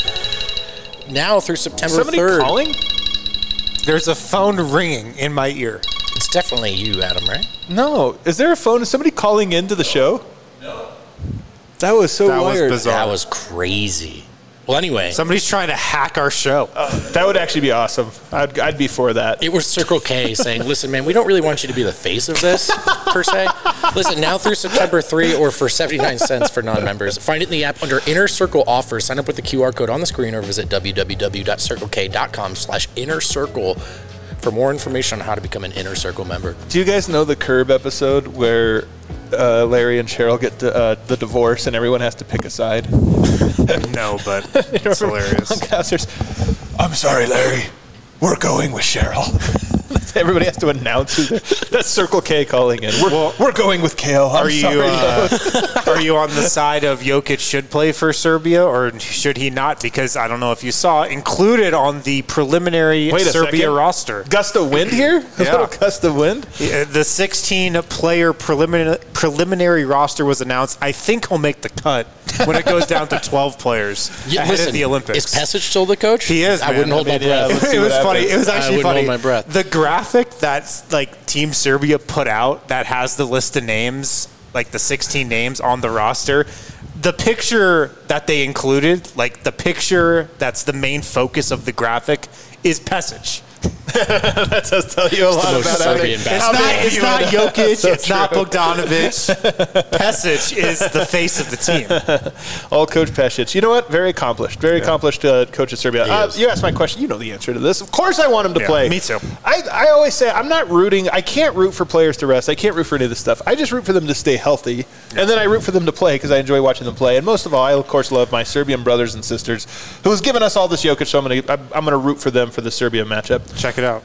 Now through September Somebody third. calling? There's a phone ringing in my ear. It's definitely you, Adam, right? No. Is there a phone? Is somebody calling into the show? No. That was so That was weird. bizarre. That was crazy. Well, anyway, Somebody's trying to hack our show. That would actually be awesome. I'd, I'd be for that. it was Circle K saying, listen, man, we don't really want you to be the face of this, per se. Listen, now through September third or for seventy-nine cents for non-members, find it in the app under Inner Circle Offers. Sign up with the Q R code on the screen or visit www.circlek.com slash inner circle for more information on how to become an Inner Circle member. Do you guys know the Curb episode where uh, Larry and Cheryl get to, uh, the divorce and everyone has to pick a side? No, but it's hilarious. I'm sorry, Larry. We're going with Cheryl. Everybody has to announce who they're- that's Circle K calling in. We're, Well, we're going with Kale. I'm Are you sorry. uh, are you on the side of Jokic should play for Serbia or should he not? Because I don't know if you saw, included on the preliminary Wait a Serbia second. roster. Gust of wind here? A Yeah. little gust of wind? Uh, The sixteen-player preliminary preliminary roster was announced. I think he'll make the cut when it goes down to twelve players Yeah, ahead listen, of the Olympics. Is Pesic still the coach? He is, I man. wouldn't hold I my mean, yeah, breath. let's see It what was funny. happens. It was I actually wouldn't funny. hold my breath. The graphic that's like Team Serbia put out that has the list of names, like the sixteen names on the roster. The picture that they included, like the picture that's the main focus of the graphic, is Pesic. That does tell you a lot most about how they- Serbian It's bastard. not, big it's you not are. Jokic. So It's not true. Bogdanovic. Pesic is the face of the team. All Coach Pesic. You know what? Very accomplished. Very accomplished uh, coach of Serbia. Uh, is. you asked my question. You know the answer to this. Of course I want him to Yeah, play. me too. I, I always say I'm not rooting. I can't root for players to rest. I can't root for any of this stuff. I just root for them to stay healthy. And then I root for them to play because I enjoy watching them play. And most of all, I, of course, love my Serbian brothers and sisters who has given us all this Jokic, so I'm going to I'm, I'm going to root for them for the Serbia matchup. Check it out.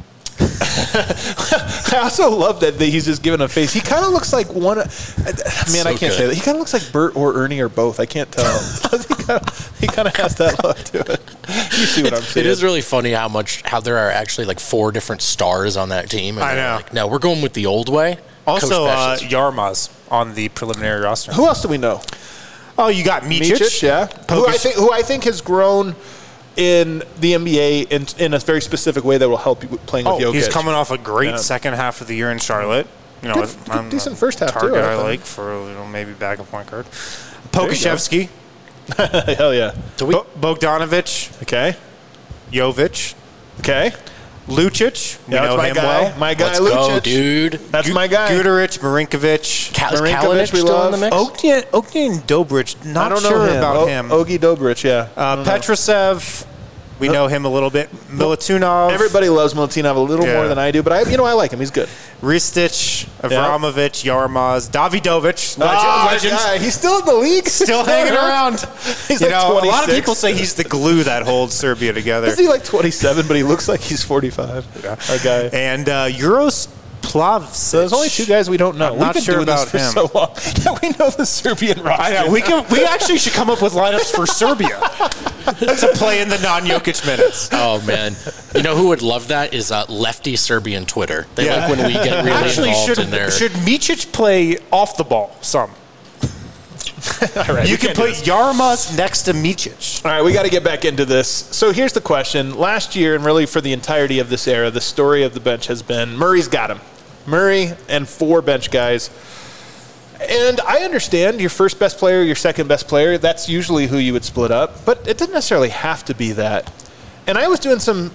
I also love that that he's just given a face. He kind of looks like one. of- Man, So I can't good. say that. He kind of looks like Bert or Ernie or both. I can't tell. he kind of has that look to it. You see what I'm saying? It is really funny how much how there are actually like four different stars on that team. And I they're know. Like, no, we're going with the old way. Also, Coach uh, Pesic. Yarmaz on the preliminary roster. Who else do we know? Oh, you got Micic. Micic, yeah. Who I think who I think has grown in the N B A in, in a very specific way that will help you playing with Oh, Jokic. he's coming off a great Yeah. second half of the year in Charlotte. You know, Good- with- good- I'm a decent first half, too, target I I think. like for you know maybe backup point guard. There you go. Pokashevsky, Hell yeah. Do we, Bo- Bogdanovic, Okay. Jovic, Okay. Lucic. We Yeah, that's know my him guy. well. My guy, let's Lucic. go, dude. That's Gu- my guy. Guduric, Marinkovic. Cal- is Marinkovic, Kalinic we still love. in the mix? Ogden, Ogden Dobrich. Not I don't sure know him. about O- him. Ogie Dobrich, yeah. I uh, don't know. Petrosev. We know him a little bit. Milutinov. Everybody loves Milutinov a little Yeah. more than I do, but I, you know, I like him. He's good. Ristich, Avramovic, Yarmaz, Davidovic, legend. Ah, legend. guy. He's still in the league. Still hanging around. He's you like know, a lot of twenty-six. people say he's the glue that holds Serbia together. Is he like twenty-seven, but he looks like he's forty-five? Our guy. And uh, Euros Plavsic. So there's only two guys we don't know. I'm We've not been sure doing about this for him. so long that we know the Serbian roster. I know. We can. We actually should come up with lineups for Serbia to play in the non-Jokic minutes. Oh man, you know who would love that is uh, lefty Serbian Twitter. They Yeah. like when we get really Actually, involved should in there. should Micic play off the ball some? All right, You we can can't do put this. Yarmaz next to Micic. All right, we got to get back into this. So here's the question. Last year, and really for the entirety of this era, the story of the bench has been Murray's got him. Murray and four bench guys. And I understand your first best player, your second best player, that's usually who you would split up, but it doesn't necessarily have to be that. And I was doing some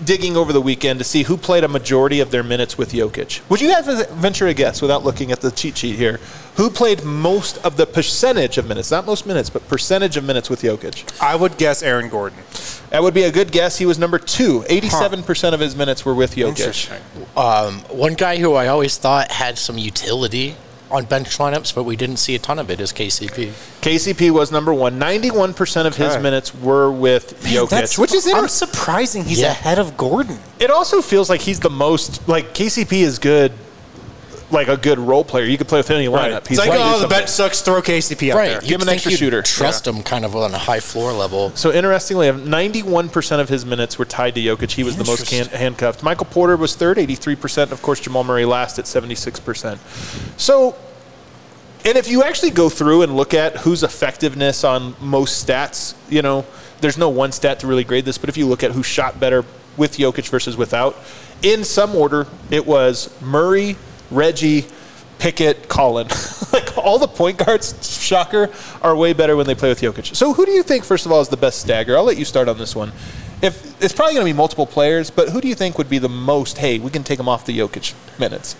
digging over the weekend to see who played a majority of their minutes with Jokic. Would you have to venture a guess without looking at the cheat sheet here? Who played most of the percentage of minutes, not most minutes, but percentage of minutes with Jokic? I would guess Aaron Gordon. That would be a good guess. He was number two. eighty-seven percent Huh. of his minutes were with Jokic. Interesting. Um, one guy who I always thought had some utility on bench lineups, but we didn't see a ton of it, is K C P. K C P was number one. ninety-one percent of his Okay. minutes were with Jokic, That's, which is I'm interesting. surprising he's Yeah. ahead of Gordon. It also feels like he's the most, like, K C P is good, like a good role player. You could play with any lineup. It's like, gonna do oh, the something. bench sucks, throw K C P out Right. there. You'd Give him an think extra you'd shooter. Trust him kind of on a high floor level. So interestingly, ninety-one percent of his minutes were tied to Jokic. He was the most can- Interesting. handcuffed. Michael Porter was third, eighty-three percent. Of course, Jamal Murray last at seventy-six percent. So, and if you actually go through and look at whose effectiveness on most stats, you know, there's no one stat to really grade this, but if you look at who shot better with Jokic versus without, in some order, it was Murray, Reggie, Pickett, Collin. Like all the point guards, shocker, are way better when they play with Jokic. So who do you think, first of all, is the best stagger? I'll let you start on this one. If it's probably going to be multiple players, but who do you think would be the most, hey, we can take him off the Jokic minutes?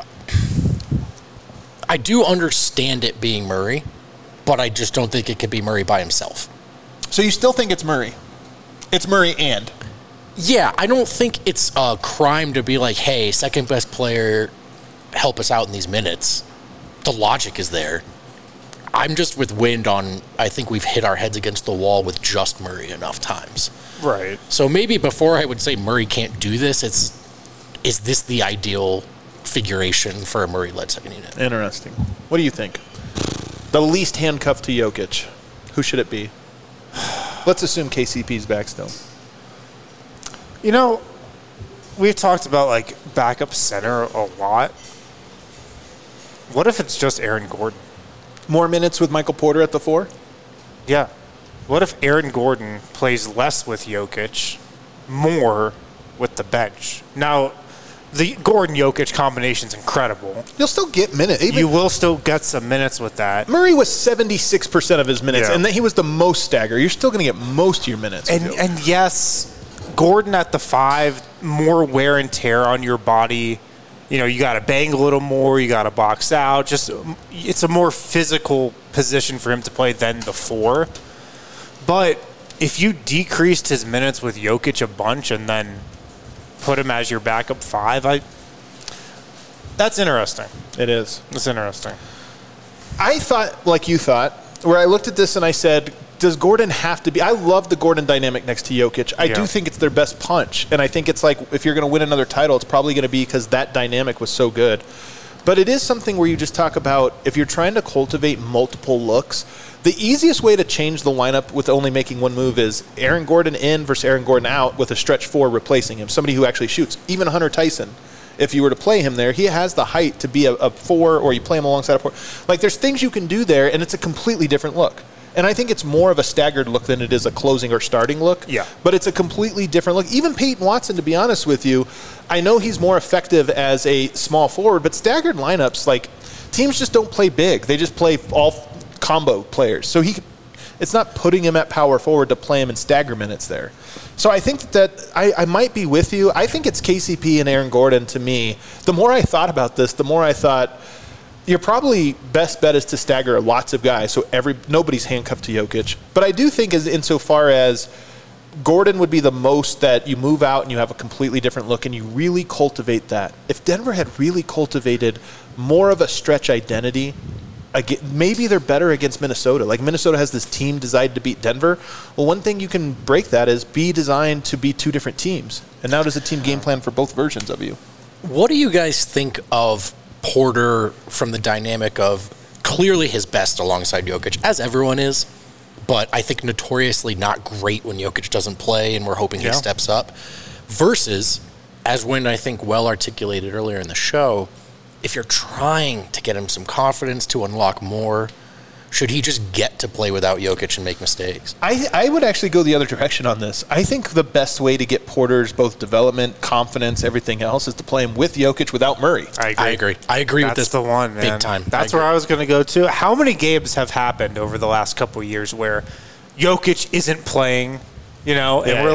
I do understand it being Murray, but I just don't think it could be Murray by himself. So you still think it's Murray? It's Murray and. Yeah, I don't think it's a crime to be like, hey, second best player, help us out in these minutes. The logic is there. I'm just with Wind on, I think we've hit our heads against the wall with just Murray enough times. Right. So maybe before I would say Murray can't do this, it's is this the ideal configuration for a Murray-led second unit? Interesting. What do you think? The least handcuffed to Jokic. Who should it be? Let's assume K C P's back still. You know, we've talked about like backup center a lot. What if it's just Aaron Gordon? More minutes with Michael Porter at the four? Yeah. What if Aaron Gordon plays less with Jokic, more with the bench? Now, the Gordon-Jokic combination is incredible. You'll still get minutes. Even You will still get some minutes with that. Murray was seventy-six percent of his minutes, Yeah. and then he was the most stagger. You're still going to get most of your minutes. with And Jokic. and yes, Gordon at the five, more wear and tear on your body. You know, you got to bang a little more. You got to box out. Just it's a more physical position for him to play than the four. But if you decreased his minutes with Jokic a bunch and then put him as your backup five, I that's interesting. It is. That's interesting. I thought, like you thought, where I looked at this and I said, does Gordon have to be? I love the Gordon dynamic next to Jokic. I Yeah. do think it's their best punch. And I think it's like, if you're going to win another title, it's probably going to be because that dynamic was so good. But it is something where you just talk about, if you're trying to cultivate multiple looks, the easiest way to change the lineup with only making one move is Aaron Gordon in versus Aaron Gordon out with a stretch four replacing him, somebody who actually shoots. Even Hunter Tyson, if you were to play him there, he has the height to be a, a four, or you play him alongside a four. Like, there's things you can do there, and it's a completely different look. And I think it's more of a staggered look than it is a closing or starting look. Yeah. But it's a completely different look. Even Peyton Watson, to be honest with you, I know he's more effective as a small forward, but staggered lineups, like, teams just don't play big. They just play all combo players. So he, it's not putting him at power forward to play him in stagger minutes there. So I think that I, I might be with you. I think it's K C P and Aaron Gordon to me. The more I thought about this, the more I thought, your probably best bet is to stagger lots of guys, so every nobody's handcuffed to Jokic. But I do think, as insofar as Gordon would be the most that you move out and you have a completely different look and you really cultivate that. If Denver had really cultivated more of a stretch identity, again, maybe they're better against Minnesota. Like, Minnesota has this team designed to beat Denver. Well, one thing you can break that is be designed to be two different teams. And now does a team game plan for both versions of you? What do you guys think of Porter from the dynamic of clearly his best alongside Jokic, as everyone is, but I think notoriously not great when Jokic doesn't play, and we're hoping Yeah. he steps up, versus, as Wynn, I think, well articulated earlier in the show, if you're trying to get him some confidence to unlock more, should he just get to play without Jokic and make mistakes? I, I would actually go the other direction on this. I think the best way to get Porter's both development, confidence, everything else is to play him with Jokic without Murray. I agree. I agree. I agree That's with this the one, man. big time. That's I where agree. I was going to go to. How many games have happened over the last couple of years where Jokic isn't playing, you know, and Yeah, we're yeah. like,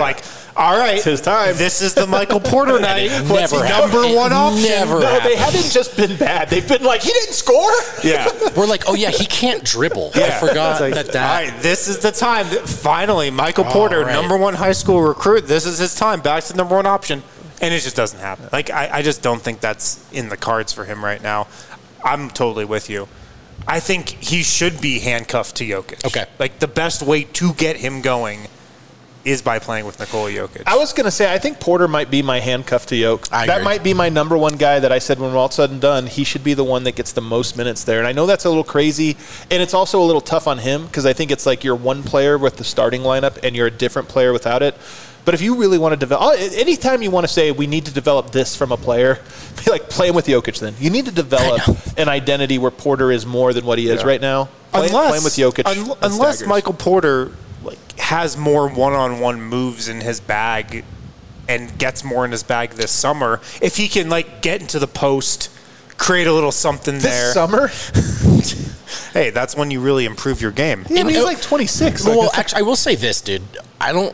All right, It's his time. This is the Michael Porter night. it What's never the happened. number one It option? never No, they happened. haven't just been bad. They've been like, he didn't score? Yeah. We're like, oh yeah, he can't dribble. I Yeah. forgot It's like, that that. All right, this is the time. that- Finally, Michael All Porter, right. number one high school recruit. This is his time. Back to the number one option. And it just doesn't happen. Like, I, I just don't think that's in the cards for him right now. I'm totally with you. I think he should be handcuffed to Jokic. Okay. Like, the best way to get him going is by playing with Nikola Jokic. I was going to say, I think Porter might be my handcuff to Yoke. I that agree. might be my number one guy that I said when we're all said and done, he should be the one that gets the most minutes there. And I know that's a little crazy, and it's also a little tough on him because I think it's like you're one player with the starting lineup and you're a different player without it. But if you really want to develop, anytime you want to say we need to develop this from a player, be like playing with Jokic then. You need to develop an identity where Porter is more than what he is Yeah. right now. Play, unless, playing with Jokic. un- that unless staggers. Michael Porter like has more one-on-one moves in his bag and gets more in his bag this summer, if he can like get into the post, create a little something This there. summer, Hey, that's when you really improve your game. yeah, but he's uh, like twenty-six. Like, Well, that's- actually, I will say this, dude. I don't.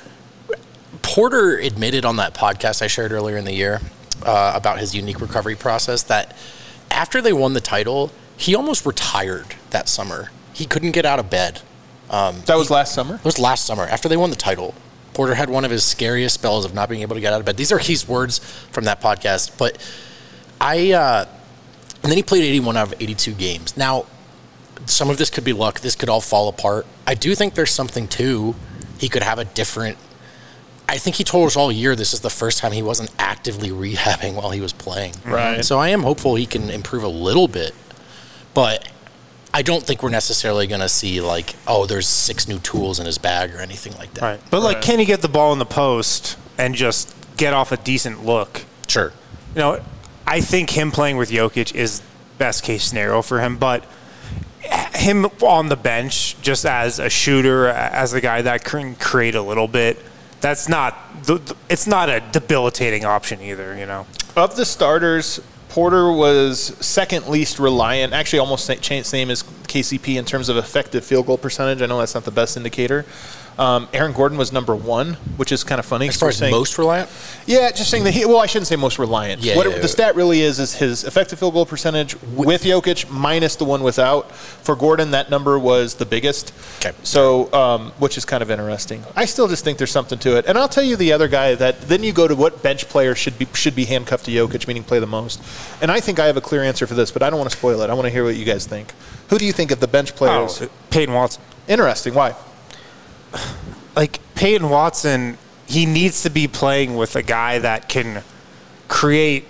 Porter admitted on that podcast I shared earlier in the year uh, about his unique recovery process that after they won the title, he almost retired that summer. He couldn't get out of bed. that was last summer. It was last summer after they won the title. Porter had one of his scariest spells of not being able to get out of bed. These are his words from that podcast. But I, uh, and then he played eighty-one out of eighty-two games. Now, some of this could be luck. This could all fall apart. I do think there's something to he could have a different. I think he told us all year this is the first time he wasn't actively rehabbing while he was playing. Right. So I am hopeful he can improve a little bit, but I don't think we're necessarily going to see like, oh, there's six new tools in his bag or anything like that. Right. But like, can he get the ball in the post and just get off a decent look? Sure. You know, I think him playing with Jokic is best case scenario for him, but him on the bench just as a shooter, as a guy that can create a little bit, that's not, it's not a debilitating option either, you know? Of the starters, Porter was second least reliant, actually almost sa- cha- same as K C P in terms of effective field goal percentage. I know that's not the best indicator. Um, Aaron Gordon was number one, which is kind of funny. As far as saying, most reliant? yeah, just saying that he, well, I shouldn't say most reliant. Yeah, what yeah, it- yeah. the stat really is is his effective field goal percentage with Jokic minus the one without. For Gordon, that number was the biggest. Okay. So, um, which is kind of interesting. I still just think there's something to it. And I'll tell you the other guy that then you go to what bench player should be should be handcuffed to Jokic, meaning play the most. And I think I have a clear answer for this, but I don't want to spoil it. I want to hear what you guys think. Who do you think of the bench players? Oh, Peyton Watson. Interesting. Why? Like, Peyton Watson, he needs to be playing with a guy that can create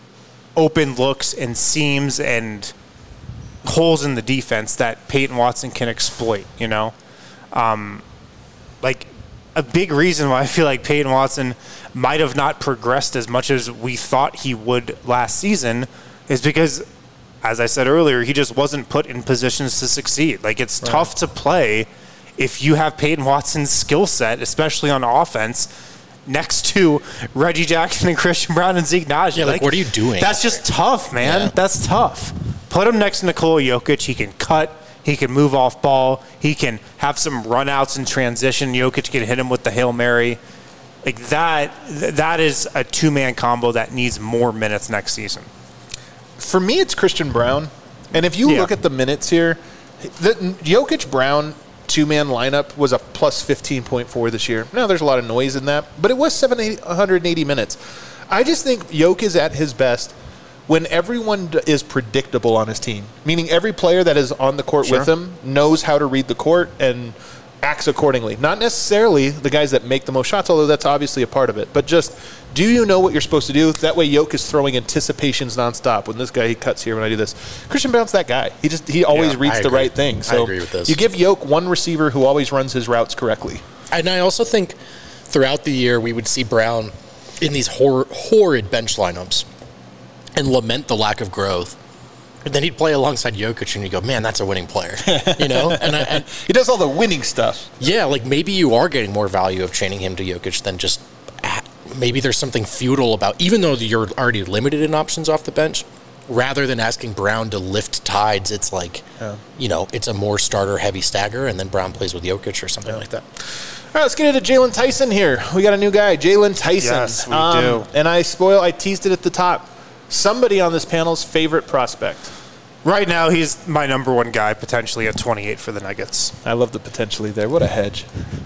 open looks and seams and holes in the defense that Peyton Watson can exploit, you know? Um, like, a big reason why I feel like Peyton Watson might have not progressed as much as we thought he would last season is because, as I said earlier, he just wasn't put in positions to succeed. Like, it's Right. tough to play if you have Peyton Watson's skill set, especially on offense, next to Reggie Jackson and Christian Brown and Zeke Naji. Yeah, like, what are you doing? That's just tough, man. Yeah. That's tough. Put him next to Nikola Jokic. He can cut. He can move off ball. He can have some runouts in transition. Jokic can hit him with the Hail Mary. Like that, that is a two-man combo that needs more minutes next season. For me, it's Christian Brown. And if you Yeah. look at the minutes here, the Jokic Brown two-man lineup was a plus fifteen point four this year. Now, there's a lot of noise in that, but it was seven hundred eighty minutes. I just think Jokic is at his best when everyone d- is predictable on his team, meaning every player that is on the court Sure. with him knows how to read the court and acts accordingly. Not necessarily the guys that make the most shots, although that's obviously a part of it, but just do you know what you're supposed to do? That way Jokic is throwing anticipations nonstop. When this guy, he cuts here when I do this. Christian Brown's that guy. He just he always Yeah, reads I the agree. right thing. I So agree with this. you give Jokic one receiver who always runs his routes correctly. And I also think throughout the year we would see Brown in these hor- horrid bench lineups and lament the lack of growth. And then he'd play alongside Jokic and you go, man, that's a winning player. You know? And, I, and He does all the winning stuff. yeah, like maybe you are getting more value of chaining him to Jokic than just ah, maybe there's something futile about, even though you're already limited in options off the bench, rather than asking Brown to lift tides, it's like, Yeah. you know, it's a more starter heavy stagger and then Brown plays with Jokic or something like that. right, let's get into Jalen Tyson here. We got a new guy, Jalen Tyson. Yes, we do. And I spoil, I teased it at the top. Somebody on this panel's favorite prospect. Right now, he's my number one guy, potentially at twenty-eight for the Nuggets. I love the potentially there. What a hedge.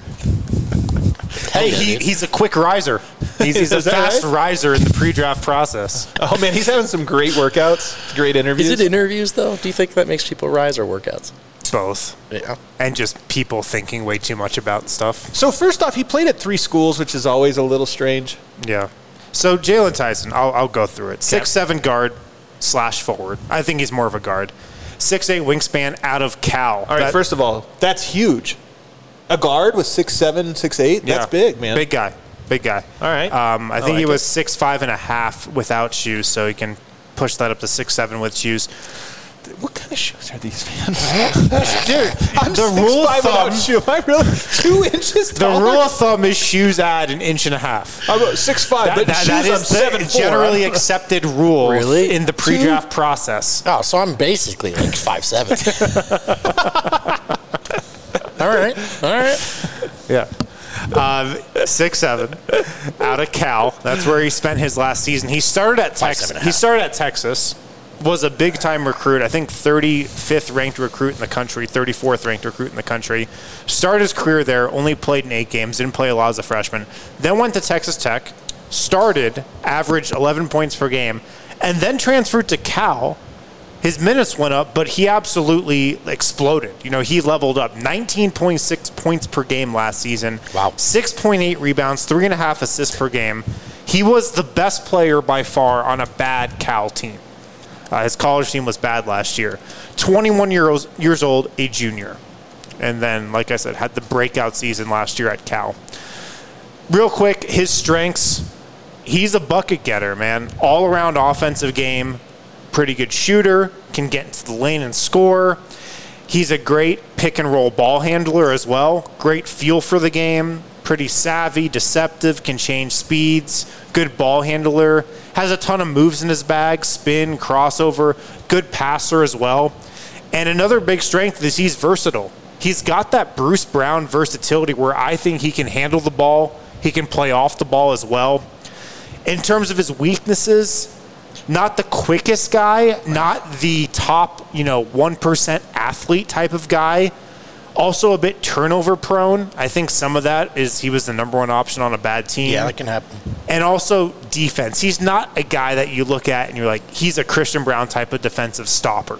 Hey, he, he's a quick riser. He's, he's a Is that fast right? riser in the pre-draft process. Oh, man, he's having some great workouts, great interviews. Is it interviews, though? Do you think that makes people rise or workouts? Both. Yeah. And just people thinking way too much about stuff. So first off, he played at three schools, which is always a little strange. Yeah. So Jalen Tyson, I'll, I'll go through it. six seven guard slash forward. I think he's more of a guard. six eight wingspan out of Cal. All right, That- first of all, that's huge. A guard with six seven, six eight, yeah, that's big, man. Big guy. Big guy. All right. Um, I I think like he it. was six five and a half without shoes, so he can push that up to six seven with shoes. What kind of shoes are these, man? Dude, I'm the six rule of five without thumb, shoe. Am I really two inches the taller? rule of thumb is shoes add an inch and a half. I'm about six five, That, but that- shoes that I'm is the seven four. generally accepted rule Really? in the pre-draft process. Oh, so I'm basically like five seven. All right. All right. Yeah. Um, six seven out of Cal. That's where he spent his last season. He started at Five, Texas. seven and a He half. started at Texas. Was a big time recruit. I think thirty-fifth ranked recruit in the country, thirty-fourth ranked recruit in the country. Started his career there. Only played in eight games. Didn't play a lot as a freshman. Then went to Texas Tech. Started, averaged eleven points per game, and then transferred to Cal. His minutes went up, but he absolutely exploded. You know, he leveled up. nineteen point six points per game last season. Wow. six point eight rebounds, three and a half assists per game. He was the best player by far on a bad Cal team. Uh, his college team was bad last year. twenty-one years, years old, a junior. And then, like I said, had the breakout season last year at Cal. Real quick, his strengths. He's a bucket getter, man. All-around offensive game. Pretty good shooter. Can get into the lane and score. He's a great pick-and-roll ball handler as well. Great feel for the game. Pretty savvy, deceptive, can change speeds. Good ball handler. Has a ton of moves in his bag. Spin, crossover. Good passer as well. And another big strength is he's versatile. He's got that Bruce Brown versatility where I think he can handle the ball. He can play off the ball as well. In terms of his weaknesses, not the quickest guy, not the top, you know, one percent athlete type of guy. Also a bit turnover prone. I think some of that is he was the number one option on a bad team. Yeah, that can happen. And also defense. He's not a guy that you look at and you're like, he's a Christian Brown type of defensive stopper.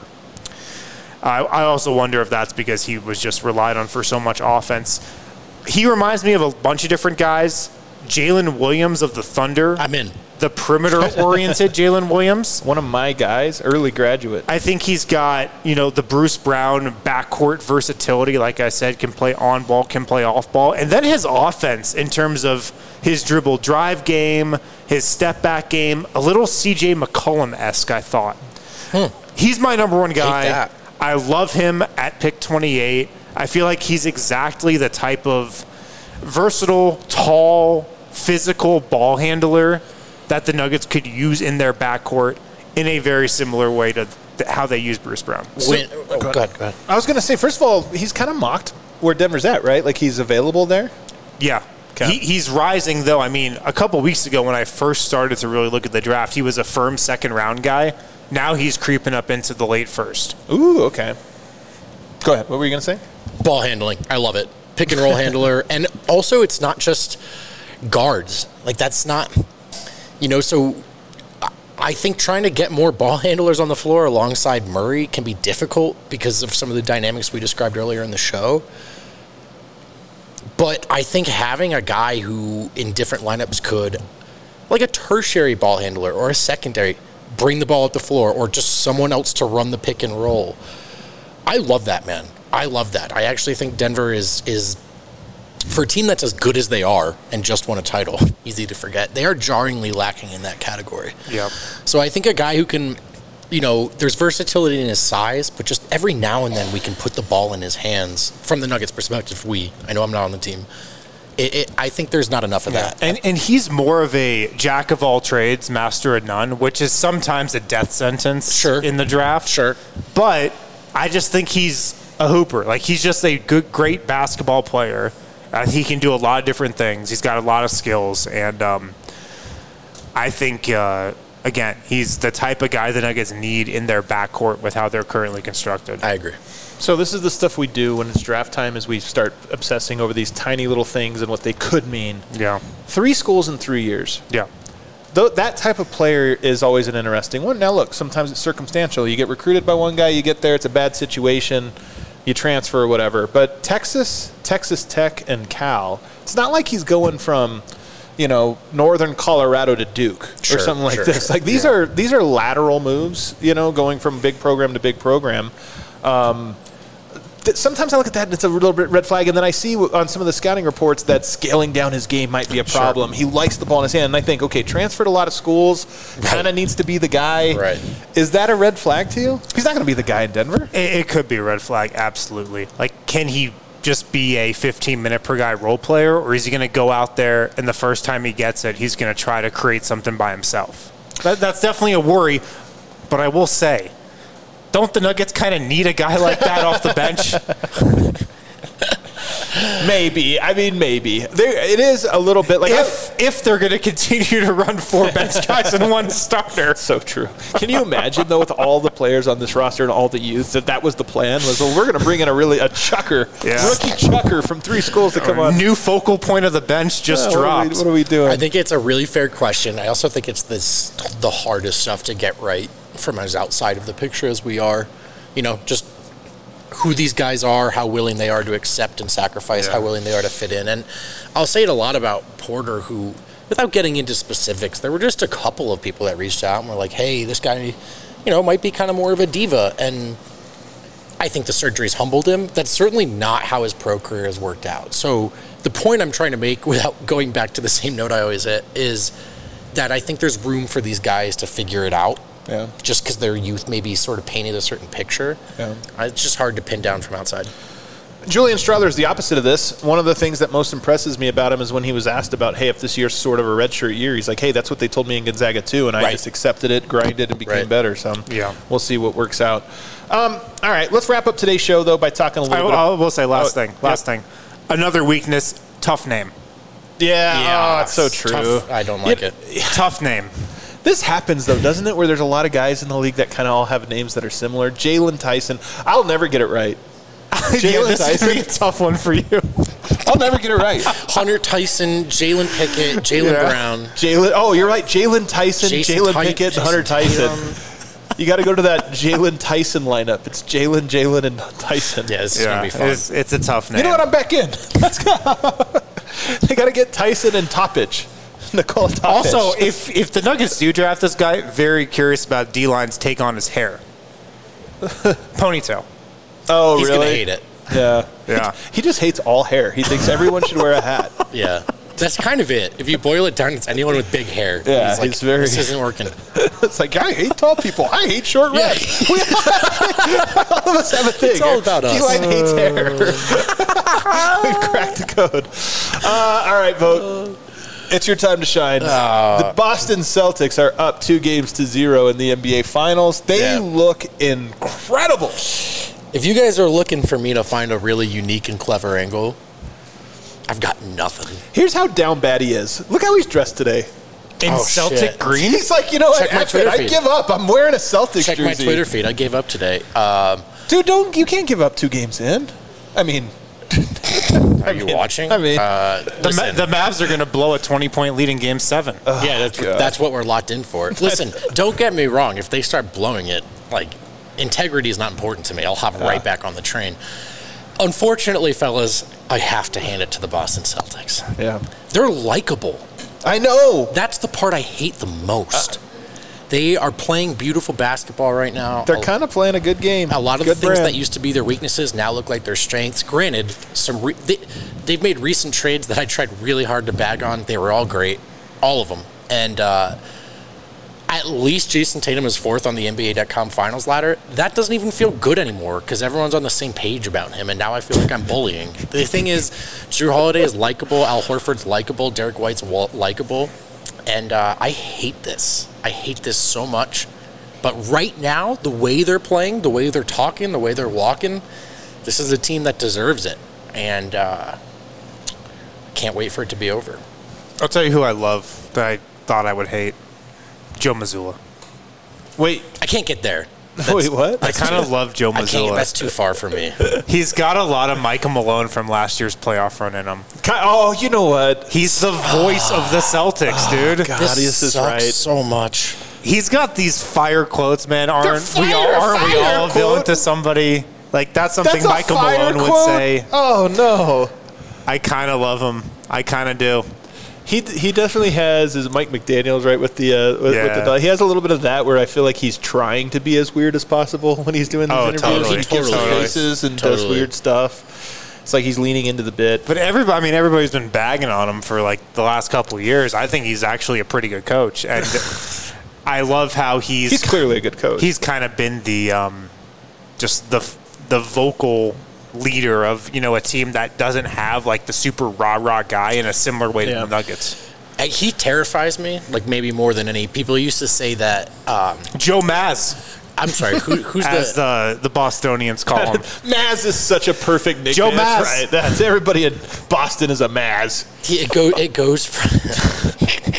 I, I also wonder if that's because he was just relied on for so much offense. He reminds me of a bunch of different guys. Jalen Williams of the Thunder. I'm in. The perimeter-oriented Jalen Williams. One of my guys, early graduate. I think he's got, you know, the Bruce Brown backcourt versatility. Like I said, can play on ball, can play off ball. And then his offense in terms of his dribble drive game, his step back game, a little C J McCollum-esque, I thought. Hmm. He's my number one guy. that. I love him at pick twenty-eight. I feel like he's exactly the type of versatile, tall, physical ball handler that the Nuggets could use in their backcourt in a very similar way to th- how they use Bruce Brown. When, oh, go ahead, go ahead. I was going to say, first of all, he's kind of mocked where Denver's at, right? Like he's available there. Yeah. Okay. He, he's rising, though. I mean, a couple weeks ago when I first started to really look at the draft, he was a firm second round guy. Now he's creeping up into the late first. Ooh, okay. Go ahead. What were you going to say? Ball handling. I love it. Pick and roll handler. And also, it's not just guards. Like, that's not, you know, so I think trying to get more ball handlers on the floor alongside Murray can be difficult because of some of the dynamics we described earlier in the show. But I think having a guy who in different lineups could, like a tertiary ball handler or a secondary, bring the ball up the floor or just someone else to run the pick and roll. I love that, man. I love that. I actually think Denver is is for a team that's as good as they are and just won a title, easy to forget, they are jarringly lacking in that category. Yep. So I think a guy who can, you know, there's versatility in his size, but just every now and then we can put the ball in his hands from the Nuggets' perspective. We, I know I'm not on the team. It, it, I think there's not enough of that. And and he's more of a jack of all trades, master of none, which is sometimes a death sentence Sure. in the draft. Sure. But I just think he's a hooper. Like, he's just a good, great basketball player. Uh, he can do a lot of different things. He's got a lot of skills, and um, I think, uh, again, he's the type of guy the Nuggets need in their backcourt with how they're currently constructed. I agree. So this is the stuff we do when it's draft time, is we start obsessing over these tiny little things and what they could mean. Yeah. Three schools in three years. Yeah. Though that type of player is always an interesting one. Now, look, sometimes it's circumstantial. You get recruited by one guy, you get there, it's a bad situation, you transfer or whatever. But Texas, Texas Tech, and Cal, it's not like he's going from, you know, northern Colorado to Duke Sure, or something like sure, this. sure. Like these Yeah. are these are lateral moves, you know, going from big program to big program. Um, th- sometimes I look at that and it's a little bit red flag, and then I see w- on some of the scouting reports that scaling down his game might be a problem. He likes the ball in his hand, and I think, okay, transferred a lot of schools, kind of needs to be the guy. Right. Is that a red flag to you? He's not going to be the guy in Denver. It, it could be a red flag, absolutely. Like, can he just be a fifteen-minute per guy role player, or is he going to go out there and the first time he gets it, he's going to try to create something by himself? That, that's definitely a worry, but I will say, don't the Nuggets kind of need a guy like that off the bench? Maybe. I mean, maybe. There, it is a little bit like... If if they're going to continue to run four bench guys and one starter. So true. Can you imagine, though, with all the players on this roster and all the youth, that that was the plan? Was, well, we're going to bring in a really, a chucker, Yeah. rookie chucker from three schools to come on. New focal point of the bench just Yeah, what are we- dropped. What are we doing? I think it's a really fair question. I also think it's this the hardest stuff to get right from as outside of the picture as we are. You know, just who these guys are, how willing they are to accept and sacrifice, Yeah. how willing they are to fit in. And I'll say it a lot about Porter, who, without getting into specifics, there were just a couple of people that reached out and were like, hey, this guy, you know, might be kind of more of a diva. And I think the surgery's humbled him. That's certainly not how his pro career has worked out. So the point I'm trying to make, without going back to the same note I always hit, is that I think there's room for these guys to figure it out. Yeah. Just because their youth maybe sort of painted a certain picture. Yeah. Uh, It's just hard to pin down from outside. Julian Strother is the opposite of this. One of the things that most impresses me about him is when he was asked about, hey, if this year's sort of a redshirt year, he's like, hey, that's what they told me in Gonzaga too, and I Right. just accepted it, grinded, and became Right. better. So Yeah. we'll see what works out. Um, all right, let's wrap up today's show, though, by talking a I, little bit. I will say last Oh, thing. Last yep. thing. Another weakness, tough name. Yeah, oh, it's so it's true. tough. I don't like Yeah. it. Tough name. This happens, though, doesn't it, where there's a lot of guys in the league that kind of all have names that are similar. Jalen Tyson. I'll never get it right. Jalen this is gonna be a Tyson. tough one for you. I'll never get it right. Hunter Tyson, Jalen Pickett, Jalen Yeah. Brown. Jalen. Oh, you're right. Jalen Tyson, Jason Jalen Ty- Pickett, and Hunter Jason Tyson. Tatum. You got to go to that Jalen Tyson lineup. It's Jalen, Jalen, and Tyson. Yeah, this is going Yeah, to be fun. it's, it's a tough name. You know what? I'm back in. Let's go. They got to get Tyson and Toppich. Nicole Toppich. Also, if if the Nuggets do draft this guy, very curious about D-Line's take on his hair. Ponytail. oh, He's really? going to hate it. Yeah. Yeah. He just hates all hair. He thinks everyone should wear a hat. Yeah. That's kind of it. If you boil it down, it's anyone with big hair. Yeah, He's like, he's very- this isn't working. It's like, I hate tall people. I hate short Yeah. reds. We all of us have a thing. It's all about us. D-Line hates hair. We've cracked the code. Uh, all right, Vote. It's your time to shine. the Boston Celtics are up two games to zero in the N B A Finals. They Yeah. look incredible. If you guys are looking for me to find a really unique and clever angle, I've got nothing. Here's how down bad he is. Look how he's dressed today. In Oh, Celtic shit. green? He's like, you know what? Check my F it. Twitter I feed. give up. I'm wearing a Celtics Check jersey. my Twitter feed. I gave up today. Um, Dude, don't you can't give up two games in. I mean, are you mean- watching? I mean- uh, The, Ma- listen, the Mavs are going to blow a twenty-point lead in Game seven. yeah, that's, God. that's what we're locked in for. Listen, don't get me wrong. If they start blowing it, like, integrity is not important to me. I'll hop right back on the train. Unfortunately, fellas, I have to hand it to the Boston Celtics. yeah. They're likable. I know. That's the part I hate the most. They are playing beautiful basketball right now. They're A- kind of playing a good game. A lot of good the things brand. that used to be their weaknesses now look like their strengths. Granted, some re- they, they've made recent trades that I tried really hard to bag on. They were all great, all of them. And uh, at least Jason Tatum is fourth on the N B A dot com finals ladder. That doesn't even feel good anymore because everyone's on the same page about him, and now I feel like I'm bullying. The thing is, Drew Holiday is likable, Al Horford's likable, Derek White's wa- likable, and uh, I hate this. I hate this so much. But right now, the way they're playing, the way they're talking, the way they're walking, this is a team that deserves it. And uh, can't wait for it to be over. I'll tell you who I love that I thought I would hate. Joe Mazzulla. Wait, I can't get there. wait, what? I kind of love Joe I can't. That's Mazzulla. too far for me. He's got a lot of Michael Malone from last year's playoff run in him. Ki- Oh, you know what? He's the voice of the Celtics, dude. God, this is sucks right. so much. He's got these fire quotes, man. Aren't we all? fire, Aren't we fire all a villain quote. to somebody? Like that's something That's a Michael fire Malone would quote? say. Oh no. I kind of love him. I kind of do. He he definitely has his Mike McDaniel's right with the uh, with, Yeah. with the he has a little bit of that where I feel like he's trying to be as weird as possible when he's doing these Oh, interviews. totally. He gives Totally. the faces and does Totally. weird stuff. It's like he's leaning into the bit. But everybody, I mean, everybody's been bagging on him for like the last couple of years. I think he's actually a pretty good coach, and I love how he's He's clearly a good coach. he's kind of been the um, just the the vocal leader of, you know, a team that doesn't have like the super rah rah guy in a similar way Yeah. to the Nuggets. Uh, He terrifies me, like maybe more than any. People used to say that. Um, Joe Maz, I'm sorry, who, who's as the? the the Bostonians call him. Maz is such a perfect nickname. Joe That's Maz. right. That's everybody in Boston is a Maz. He, it go it goes from.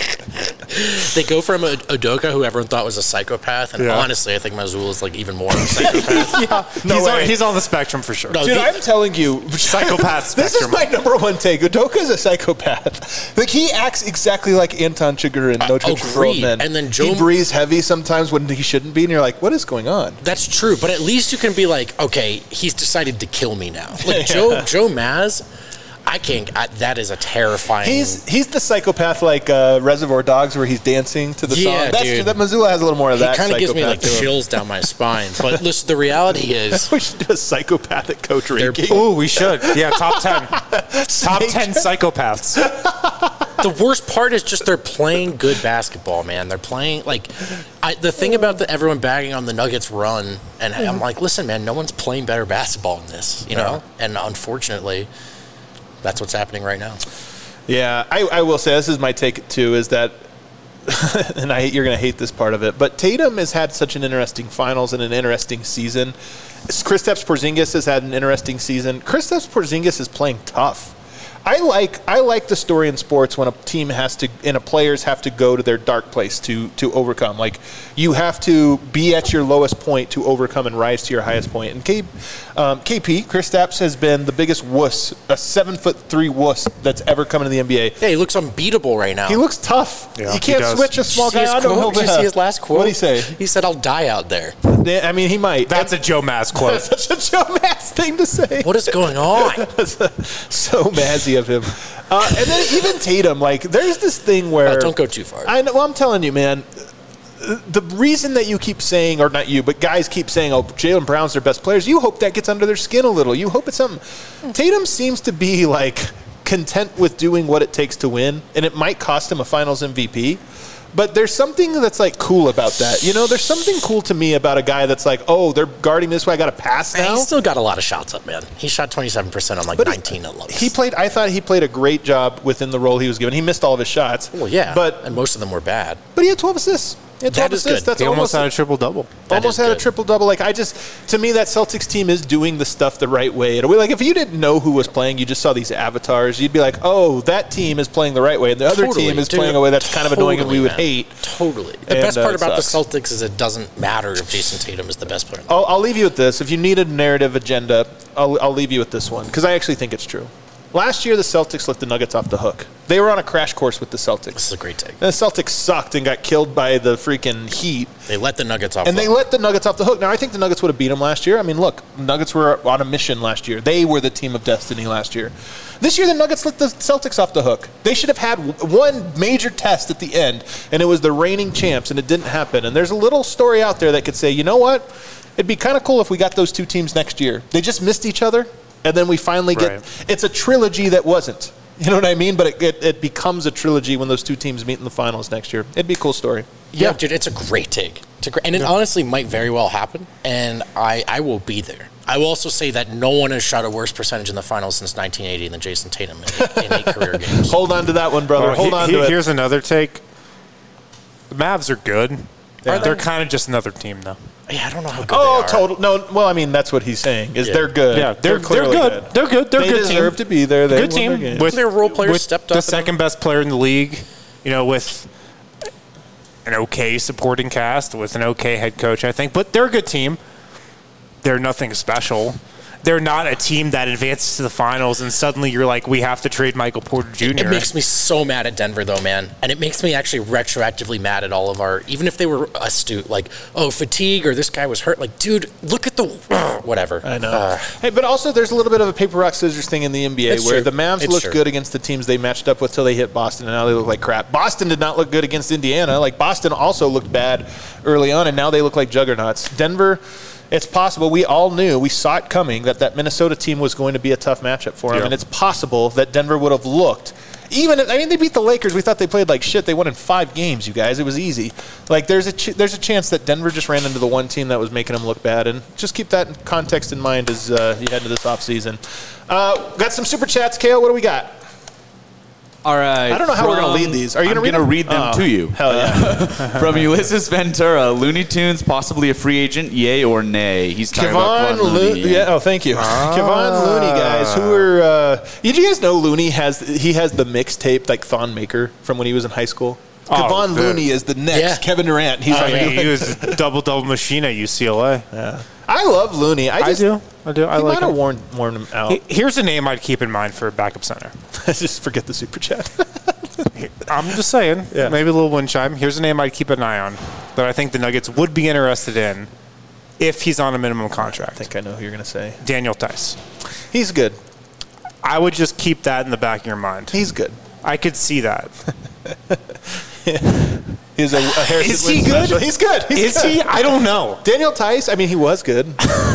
They go from a Udoka, who everyone thought was a psychopath, and Yeah. honestly, I think Mazzulla is like even more of a psychopath. No he's, on, way. he's on the spectrum for sure. No, Dude, the- I'm telling you, Psychopath This is spectrum. my number one take. Udoka is a psychopath. Like he acts exactly like Anton Chigurh in No Country for Old agreed. Men. And then Joe- he breathes heavy sometimes when he shouldn't be, and you're like, what is going on? That's true, but at least you can be like, okay, he's decided to kill me now. Like Joe Joe Maz, I can't. I, that is a terrifying. He's he's the psychopath like uh, Reservoir Dogs, where he's dancing to the Yeah, song. That's dude. true. That Mazzulla has a little more of he that. kind of gives me like psychopath to him. chills down my spine. But listen, the reality is, We should do a psychopathic coach ranking. Ooh, we should. Yeah, top ten. top ten psychopaths. the worst part is just they're playing good basketball, man. They're playing like I, the thing about the everyone bagging on the Nuggets run, and I'm like, listen, man, no one's playing better basketball than this, you know. And unfortunately, that's what's happening right now. Yeah, I, I will say this is my take too. Is that, and I you're going to hate this part of it, but Tatum has had such an interesting finals and an interesting season. Kristaps Porzingis has had an interesting season. Kristaps Porzingis is playing tough. I like I like the story in sports when a team has to and a players have to go to their dark place to to overcome. Like you have to be at your lowest point to overcome and rise to your highest point. And K, um, K P Kristaps has been the biggest wuss, a seven foot three wuss that's ever come into the N B A. Yeah, he looks unbeatable right now. He looks tough. Yeah, he he can't does. switch a small Did you see guy his onto quote? Did you see his last quote? What did he say? He said, "I'll die out there." I mean, he might. That's a Joe Maz quote. That's such a Joe Mass thing to say. What is going on? So mazzy of him. Uh, and then even Tatum, like, there's this thing where Oh, don't go too far. I know. Well, I'm telling you, man. The reason that you keep saying, or not you, but guys keep saying, "Oh, Jaylen Brown's their best players," you hope that gets under their skin a little. You hope it's something. Tatum seems to be like content with doing what it takes to win, and it might cost him a Finals M V P. But there's something that's like cool about that. You know, there's something cool to me about a guy that's like, "Oh, they're guarding this way. I got to pass And now." he's still got a lot of shots up, man. He shot twenty-seven percent on like But nineteen at lowest. He played. I thought he played a great job within the role he was given. He missed all of his shots. Well, yeah, but and most of them were bad. but he had twelve assists. He had twelve That is assists. good. That's He almost almost had a triple double. That almost is had a good. triple double. Like I just, to me, that Celtics team is doing the stuff the right way. And like if you didn't know who was playing, you just saw these avatars, you'd be like, "Oh, that team is playing the right way," and the other Totally, team is dude. playing a way that's kind of annoying and we would Totally, hate. man. Totally. The And, best uh, part it about the sucks. Celtics is it doesn't matter if Jason Tatum is the best player. in the I'll, I'll leave you with this. If you need a narrative agenda, I'll, I'll leave you with this one because I actually think it's true. Last year, the Celtics let the Nuggets off the hook. They were on a crash course with the Celtics. This is a great take. And the Celtics sucked and got killed by the freaking Heat. They let the Nuggets off. And the they let the Nuggets off the hook. Now, I think the Nuggets would have beat them last year. I mean, look, Nuggets were on a mission last year. They were the team of destiny last year. This year, the Nuggets let the Celtics off the hook. They should have had one major test at the end, and it was the reigning champs, and it didn't happen. And there's a little story out there that could say, you know what? It'd be kind of cool if we got those two teams next year. They just missed each other, and then we finally get Right. it's a trilogy that wasn't. You know what I mean? But it, it, it becomes a trilogy when those two teams meet in the finals next year. It'd be a cool story. Yeah, dude, it's a great take. It's a great, and it honestly might very well happen. And I, I will be there. I will also say that no one has shot a worse percentage in the finals since nineteen eighty than Jason Tatum in, in eight career games. Hold on to that one, brother. Oh, Hold he- on he- to it. Here's another take. The Mavs are good, Yeah. They're kind of just another team, though. Yeah, I don't know how good Oh, they are. total. No, well, I mean, that's what he's saying, is Yeah. they're good. Yeah, they're, they're, clearly good. They're good. They're They a good team. deserve to be there. They Good won their team. games. With Their role players with stepped the up and- second best player in the league, you know, with an okay supporting cast, with an okay head coach, I think. But they're a good team. They're nothing special. They're not a team that advances to the finals and suddenly you're like, we have to trade Michael Porter Junior It makes me so mad at Denver, though, man. And it makes me actually retroactively mad at all of our, even if they were astute, like, oh, fatigue or this guy was hurt. Like, dude, look at the, whatever. I know. Uh, hey, but also there's a little bit of a paper, rock, scissors thing in the N B A It's where true. the Mavs It's looked true. good against the teams they matched up with till they hit Boston, and now they look like crap. Boston did not look good against Indiana. Like, Boston also looked bad early on, and now they look like juggernauts. Denver, it's possible. We all knew, we saw it coming, that that Minnesota team was going to be a tough matchup for them, Yeah. and it's possible that Denver would have looked. Even, I mean, they beat the Lakers. We thought they played like shit. They won in five games, you guys. It was easy. Like, there's a ch- there's a chance that Denver just ran into the one team that was making them look bad. And just keep that in context in mind as uh, you head into this offseason. Uh, got some super chats, Kale. What do we got? All right. I don't know how we're gonna lead these. Are you I'm gonna read gonna them? read them Oh, to you. Hell yeah. From Ulysses Ventura, Looney Tunes possibly a free agent, yay or nay? He's talking about Kevon Kevon Looney. Looney. Yeah. Oh, thank you. Kevon Looney, guys. Who are? Uh, did you guys know Looney has he has the mixtape like Thon Maker from when he was in high school? Oh, Kevon the- Looney is the next Yeah. Kevin Durant. He's I like, mean, he was a double-double machine at U C L A. I love Looney. I I just do. I do. I he like might have him. worn worn him out. He- Here's a name I'd keep in mind for a backup center. Just forget the super chat. I'm just saying, Yeah. maybe a little wind chime. Here's a name I'd keep an eye on that I think the Nuggets would be interested in if he's on a minimum I contract. think I know who you're gonna say. Daniel Tice. He's good. I would just keep that in the back of your mind. He's good. I could see that. He's a, a Harrison Is he Wind good? special. He's good. He's Is good. he? I don't know. Daniel Tice, I mean, he was good.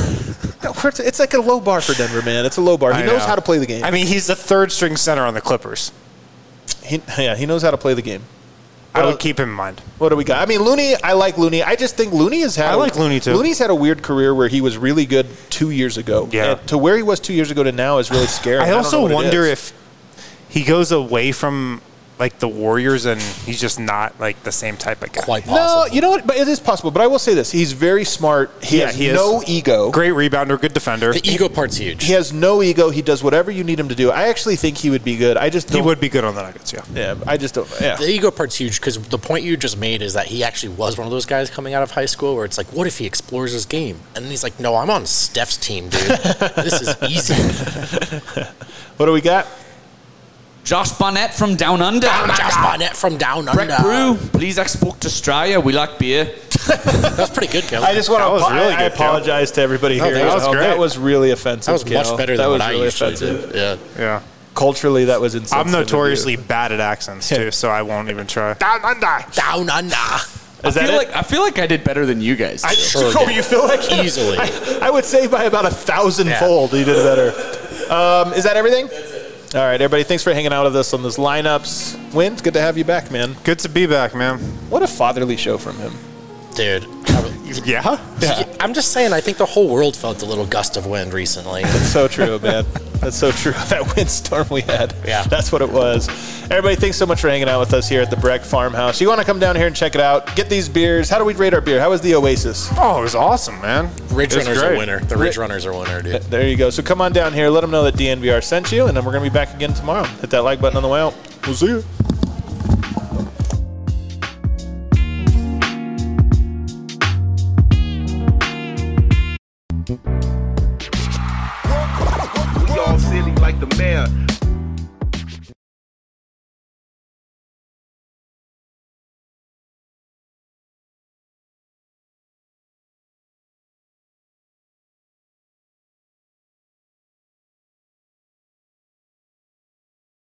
It's like a low bar for Denver, man. It's a low bar. He I knows know. how to play the game. I mean, he's the third string center on the Clippers. He, yeah, he knows how to play the game. I Well, would keep him in mind. What do we got? I mean, Looney, I like Looney. I just think Looney has had. I like Looney, too. Looney's had a weird career where he was really good two years ago. Yeah. And to where he was two years ago to now is really scary. I don't also know what it wonder is. if he goes away from like the Warriors and he's just not like the same type of guy. quite No, possible. you know what? But it is possible. But I will say this: he's very smart. He Yeah, has he is. no ego. Great rebounder, good defender. The ego part's huge. He has no ego. He does whatever you need him to do. I actually think he would be good. I just He don't, would be good on the Nuggets, yeah. Yeah, I just don't. Yeah. The ego part's huge because the point you just made is that he actually was one of those guys coming out of high school where it's like, what if he explores his game? And then he's like, no, I'm on Steph's team, dude. This is easy. What do we got? Josh Barnett from Down Under. Josh Barnett from down Breck under. Brew, please export to Australia. We like beer. That's pretty good, Kelly. I just want That to. was really I, I good, apologize to everybody here. that was Oh, great. That was really offensive. that was Kale. much better that than was what I really usually offensive. do. Yeah. Yeah. Culturally, that was insensitive. I'm of notoriously you. bad at accents too, so I won't even try. Down under. Down under. I Is that feel it? like I feel like I did better than you guys. I, Sure oh, did. you feel like Easily. I, I would say by about a thousand fold you did better. Um, is that everything? That's it. All right, everybody. Thanks for hanging out with us on this lineups. Win, it's good to have you back, man. Good to be back, man. What a fatherly show from him. Dude. Yeah? I'm just saying, I think the whole world felt a little gust of wind recently. That's so true, man. That's so true. That windstorm we had. Yeah. That's what it was. Everybody, thanks so much for hanging out with us here at the Breck Farmhouse. You want to come down here and check it out, get these beers. How do we rate our beer? How was the Oasis? Oh, it was awesome, man. Ridge It was Runners are great. winner. The Ridge Runners are winner, dude. There you go. So come on down here. Let them know that D N V R sent you, and then we're going to be back again tomorrow. Hit that like button on the way out. We'll see you. We all silly like the mayor.